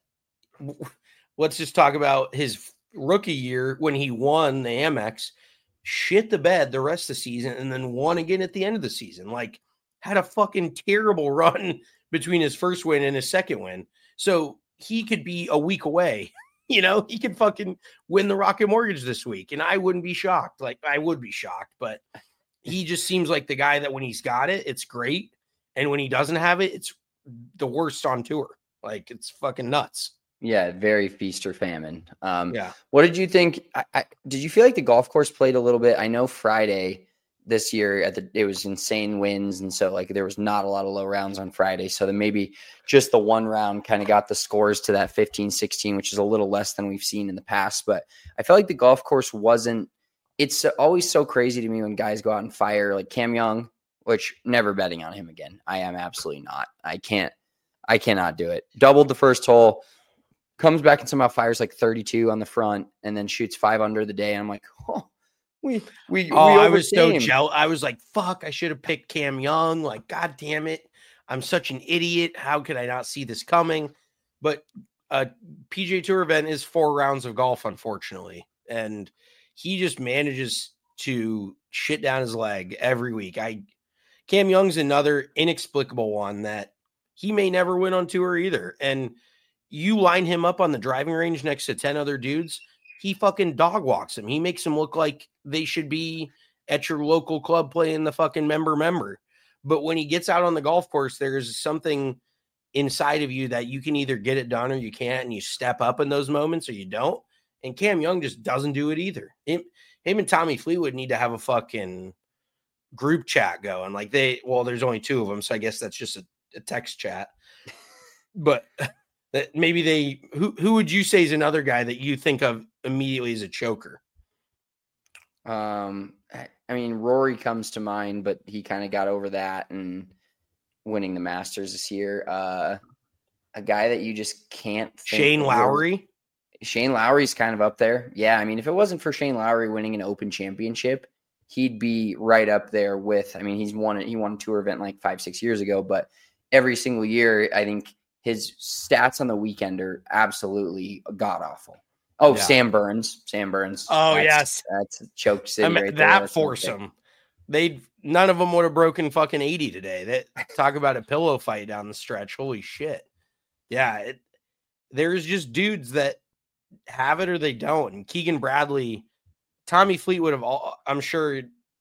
let's just talk about his rookie year when he won the Amex, shit the bed the rest of the season, and then won again at the end of the season. Like, had a fucking terrible run between his first win and his second win. So he could be a week away You know, he could fucking win the Rocket Mortgage this week, and I wouldn't be shocked. Like, I would be shocked, but he just seems like the guy that when he's got it, it's great. And when he doesn't have it, it's the worst on tour. Like, it's fucking nuts. Yeah, very feast or famine. Um, yeah. What did you think? I, I, did you feel like the golf course played a little bit? I know Friday this year at the it was insane winds, and so like there was not a lot of low rounds on Friday. So then maybe just the one round kind of got the scores to that fifteen sixteen, which is a little less than we've seen in the past. But I felt like the golf course wasn't. It's always so crazy to me when guys go out and fire like Cam Young, which never betting on him again. I am absolutely not. I can't. I cannot do it. Doubled the first hole, comes back and somehow fires like thirty-two on the front, and then shoots five under the day. And I'm like, oh. We, we, oh, we I was so jealous. I was like, fuck, I should have picked Cam Young. Like, God damn it. I'm such an idiot. How could I not see this coming? But a P G A Tour event is four rounds of golf, unfortunately. And he just manages to shit down his leg every week. I Cam Young's another inexplicable one that he may never win on tour either. And you line him up on the driving range next to ten other dudes, he fucking dog walks them. He makes them look like they should be at your local club playing the fucking member member. But when he gets out on the golf course, there's something inside of you that you can either get it done or you can't, and you step up in those moments or you don't. And Cam Young just doesn't do it either. Him, him and Tommy Fleetwood need to have a fucking group chat going. Like they, well, there's only two of them, so I guess that's just a, a text chat. But that maybe they, who, who would you say is another guy that you think of immediately as a choker? Um, I mean, Rory comes to mind, but he kind of got over that and winning the Masters this year. Uh, a guy that you just can't think Shane Lowry. Shane Lowry's kind of up there. Yeah. I mean, if it wasn't for Shane Lowry winning an Open Championship, he'd be right up there with, I mean, he's won it. He won a tour event like five, six years ago, but every single year, I think his stats on the weekend are absolutely god awful. Oh, yeah. Sam Burns. Sam Burns. Oh, that's, yes. That's a choke city I mean, right that there. foursome. They none of them would have broken fucking eighty today. That talk about a pillow fight down the stretch. Holy shit. Yeah. It, there's just dudes that have it or they don't. And Keegan Bradley, Tommy Fleetwood of all, I'm sure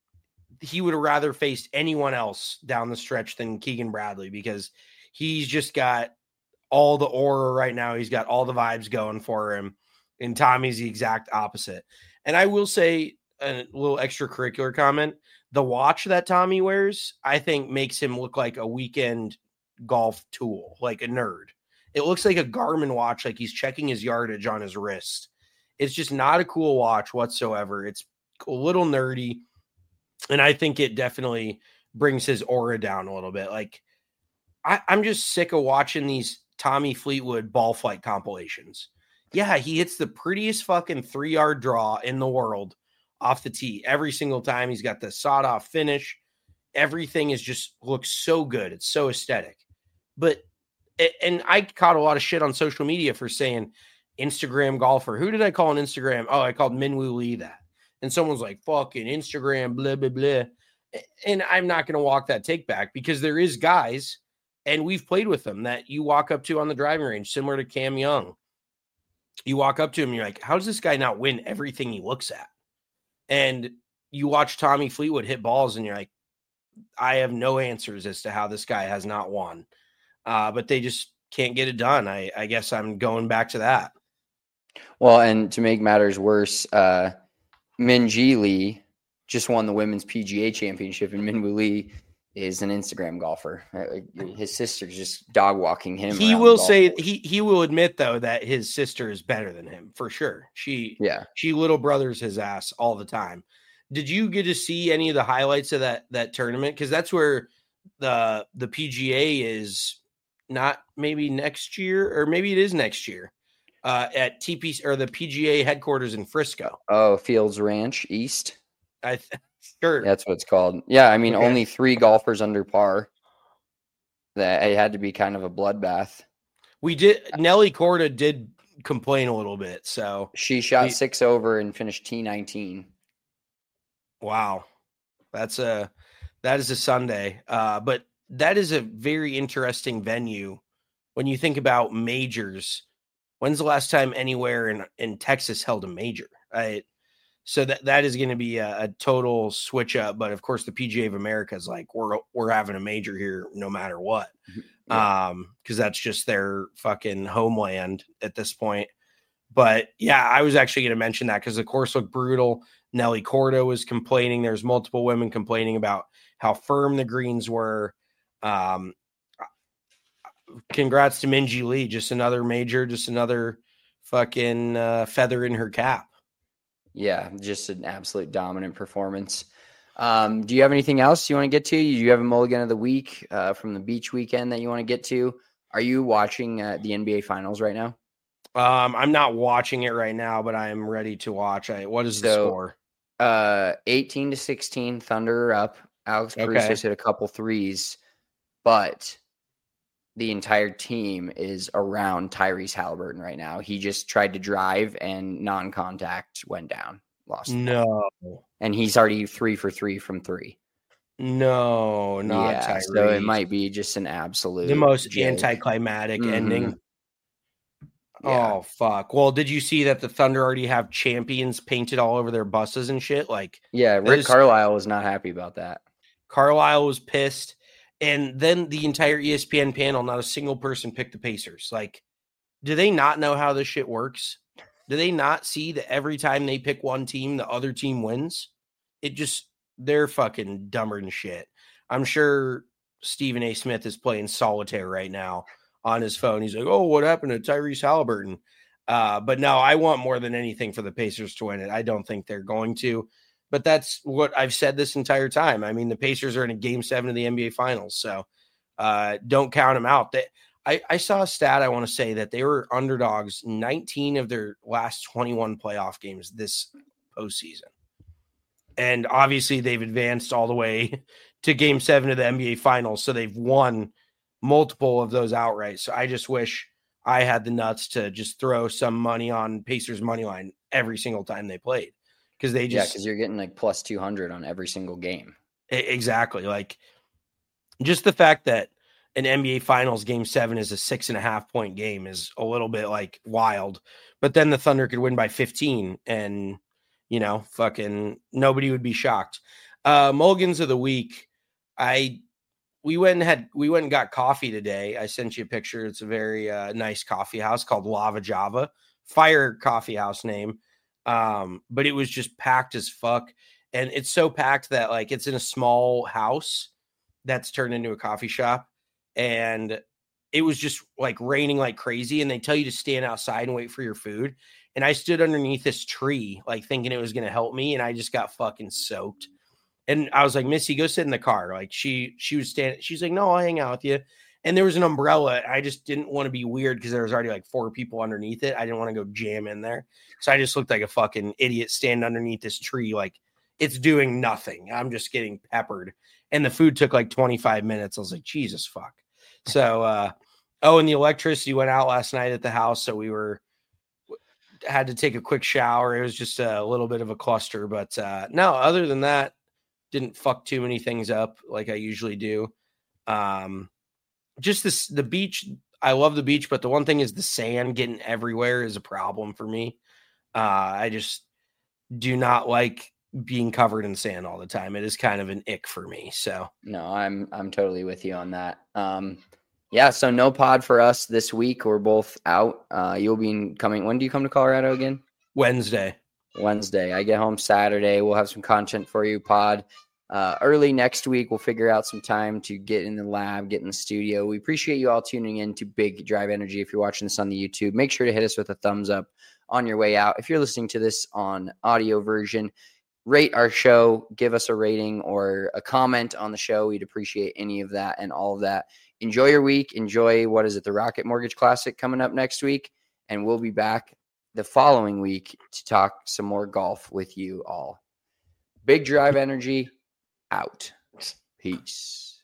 he would have rather faced anyone else down the stretch than Keegan Bradley because he's just got all the aura right now. He's got all the vibes going for him. And Tommy's the exact opposite. And I will say a little extracurricular comment. The watch that Tommy wears, I think makes him look like a weekend golf tool, like a nerd. It looks like a Garmin watch, like he's checking his yardage on his wrist. It's just not a cool watch whatsoever. It's a little nerdy. And I think it definitely brings his aura down a little bit. Like I, I'm just sick of watching these Tommy Fleetwood ball flight compilations. Yeah, he hits the prettiest fucking three-yard draw in the world off the tee every single time. He's got the sawed-off finish. Everything is just looks so good. It's so aesthetic. But, and I caught a lot of shit on social media for saying Instagram golfer. Who did I call on Instagram? Oh, I called Minwoo Lee that. And someone's like, fucking Instagram, blah, blah, blah. And I'm not going to walk that take back because there is guys, and we've played with them, that you walk up to on the driving range, similar to Cam Young. You walk up to him and you're like, how does this guy not win everything he looks at? And you watch Tommy Fleetwood hit balls and you're like, I have no answers as to how this guy has not won. Uh, but they just can't get it done. I, I guess I'm going back to that. Well, and to make matters worse, uh, Minjee Lee just won the women's P G A championship, and Minwoo Lee is an Instagram golfer. His sister's just dog walking him. He will say he he will admit though that his sister is better than him for sure. She yeah she little brothers his ass all the time. Did you get to see any of the highlights of that that tournament? Because that's where the the P G A is not maybe next year or maybe it is next year uh, at T P or the P G A headquarters in Frisco. Oh, Fields Ranch East. I. Th- Sure. That's what it's called. Yeah, I mean, okay. Only three golfers under par. That it had to be kind of a bloodbath. We did. Nelly Korda did complain a little bit, so she shot we, six over and finished T nineteen. Wow, that's a that is a Sunday. Uh, but that is a very interesting venue when you think about majors. When's the last time anywhere in, in Texas held a major? I, so that, that is going to be a, a total switch up. But of course, the P G A of America is like, we're, we're having a major here no matter what. Yeah. Um, because that's just their fucking homeland at this point. But yeah, I was actually going to mention that because the course looked brutal. Nelly Corda was complaining. There's multiple women complaining about how firm the greens were. Um, congrats to Minjee Lee. Just another major, just another fucking uh, feather in her cap. Yeah, just an absolute dominant performance. Um, do you have anything else you want to get to? Do you have a mulligan of the week uh, from the beach weekend that you want to get to? Are you watching uh, the N B A Finals right now? Um, I'm not watching it right now, but I am ready to watch. I, what is the so, score? Uh, eighteen to sixteen, Thunder are up. Alex Okay. Caruso's hit a couple threes, but the entire team is around Tyrese Halliburton right now. He just tried to drive and non-contact went down, lost. No. And he's already three for three from three. No, not yeah, Tyrese. so it might be just an absolute the most joke. anticlimactic Mhm. ending. Yeah. Oh, fuck. Well, did you see that the Thunder already have champions painted all over their buses and shit? Like, Yeah, that Rick is- Carlisle was not happy about that. Carlisle was pissed. And then the entire E S P N panel, not a single person picked the Pacers. Like, do they not know how this shit works? Do they not see that every time they pick one team, the other team wins? It just, they're fucking dumber than shit. I'm sure Stephen A. Smith is playing solitaire right now on his phone. He's like, oh, what happened to Tyrese Halliburton? Uh, but no, I want more than anything for the Pacers to win it. I don't think they're going to. But that's what I've said this entire time. I mean, the Pacers are in a game seven of the N B A Finals, so uh, don't count them out. They, I, I saw a stat, I want to say, that they were underdogs nineteen of their last twenty-one playoff games this postseason. And obviously, they've advanced all the way to game seven of the N B A Finals, so they've won multiple of those outright. So I just wish I had the nuts to just throw some money on Pacers money line every single time they played. Because they just, yeah, because you're getting like plus two hundred on every single game. Exactly. Like, just the fact that an N B A Finals game seven is a six and a half point game is a little bit like wild. But then the Thunder could win by fifteen and, you know, fucking nobody would be shocked. Uh, Mulligans of the week. I, we went and had, we went and got coffee today. I sent you a picture. It's a very uh, nice coffee house called Lava Java. Fire coffee house name. Um, but it was just packed as fuck. And it's so packed that like it's in a small house that's turned into a coffee shop. And it was just like raining like crazy. And they tell you to stand outside and wait for your food. And I stood underneath this tree, like thinking it was going to help me. And I just got fucking soaked. And I was like, Missy, go sit in the car. Like she, she was standing, she's like, no, I'll hang out with you. And there was an umbrella. I just didn't want to be weird because there was already like four people underneath it. I didn't want to go jam in there. So I just looked like a fucking idiot standing underneath this tree. Like it's doing nothing. I'm just getting peppered. And the food took like twenty-five minutes. I was like, Jesus fuck. So, uh, oh, and the electricity went out last night at the house. So we were, had to take a quick shower. It was just a little bit of a cluster, but uh, no, other than that, didn't fuck too many things up like I usually do. Um, Just this, the beach. I love the beach, but the one thing is the sand getting everywhere is a problem for me. Uh, I just do not like being covered in sand all the time. It is kind of an ick for me. So no, I'm I'm totally with you on that. Um, yeah, so no pod for us this week. We're both out. Uh, you'll be coming. When do you come to Colorado again? Wednesday. Wednesday. I get home Saturday. We'll have some content for you, pod. Uh, early next week, we'll figure out some time to get in the lab, get in the studio. We appreciate you all tuning in to Big Drive Energy. If you're watching this on the YouTube, make sure to hit us with a thumbs up on your way out. If you're listening to this on audio version, rate our show, give us a rating or a comment on the show. We'd appreciate any of that and all of that. Enjoy your week. Enjoy, what is it, the Rocket Mortgage Classic coming up next week. And we'll be back the following week to talk some more golf with you all. Big Drive Energy out. Peace.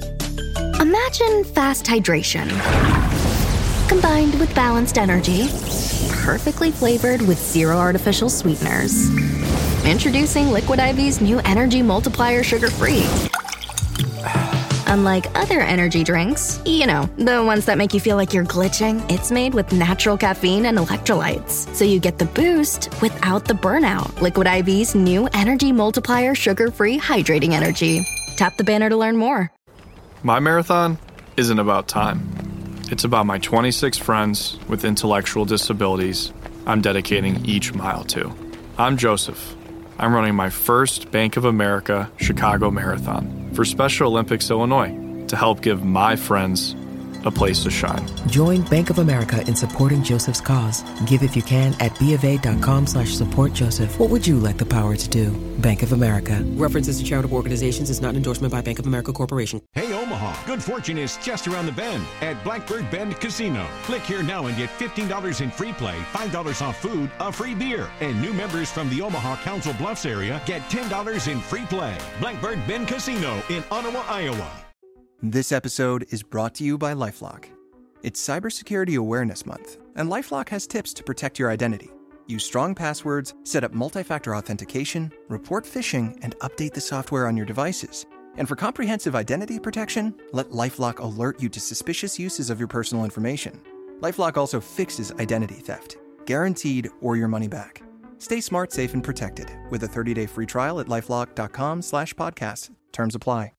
Imagine fast hydration combined with balanced energy, perfectly flavored with zero artificial sweeteners. Introducing Liquid I V's new Energy Multiplier Sugar Free. Unlike other energy drinks, you know, the ones that make you feel like you're glitching, it's made with natural caffeine and electrolytes. So you get the boost without the burnout. Liquid I V's new Energy Multiplier Sugar-Free Hydrating Energy. Tap the banner to learn more. My marathon isn't about time. It's about my twenty-six friends with intellectual disabilities I'm dedicating each mile to. I'm Joseph. I'm running my first Bank of America Chicago Marathon for Special Olympics Illinois to help give my friends a place to shine. Join Bank of America in supporting Joseph's cause. Give if you can at BofA.com slash support Joseph. What would you like the power to do? Bank of America. References to charitable organizations is not an endorsement by Bank of America Corporation. Hey, Omaha, good fortune is just around the bend at Blackbird Bend Casino. Click here now and get fifteen dollars in free play, five dollars off food, a free beer. And new members from the Omaha Council Bluffs area get ten dollars in free play. Blackbird Bend Casino in Ottawa, Iowa. This episode is brought to you by LifeLock. It's Cybersecurity Awareness Month, and LifeLock has tips to protect your identity. Use strong passwords, set up multi-factor authentication, report phishing, and update the software on your devices. And for comprehensive identity protection, let LifeLock alert you to suspicious uses of your personal information. LifeLock also fixes identity theft, guaranteed or your money back. Stay smart, safe, and protected with a thirty-day free trial at LifeLock.com slash podcast. Terms apply.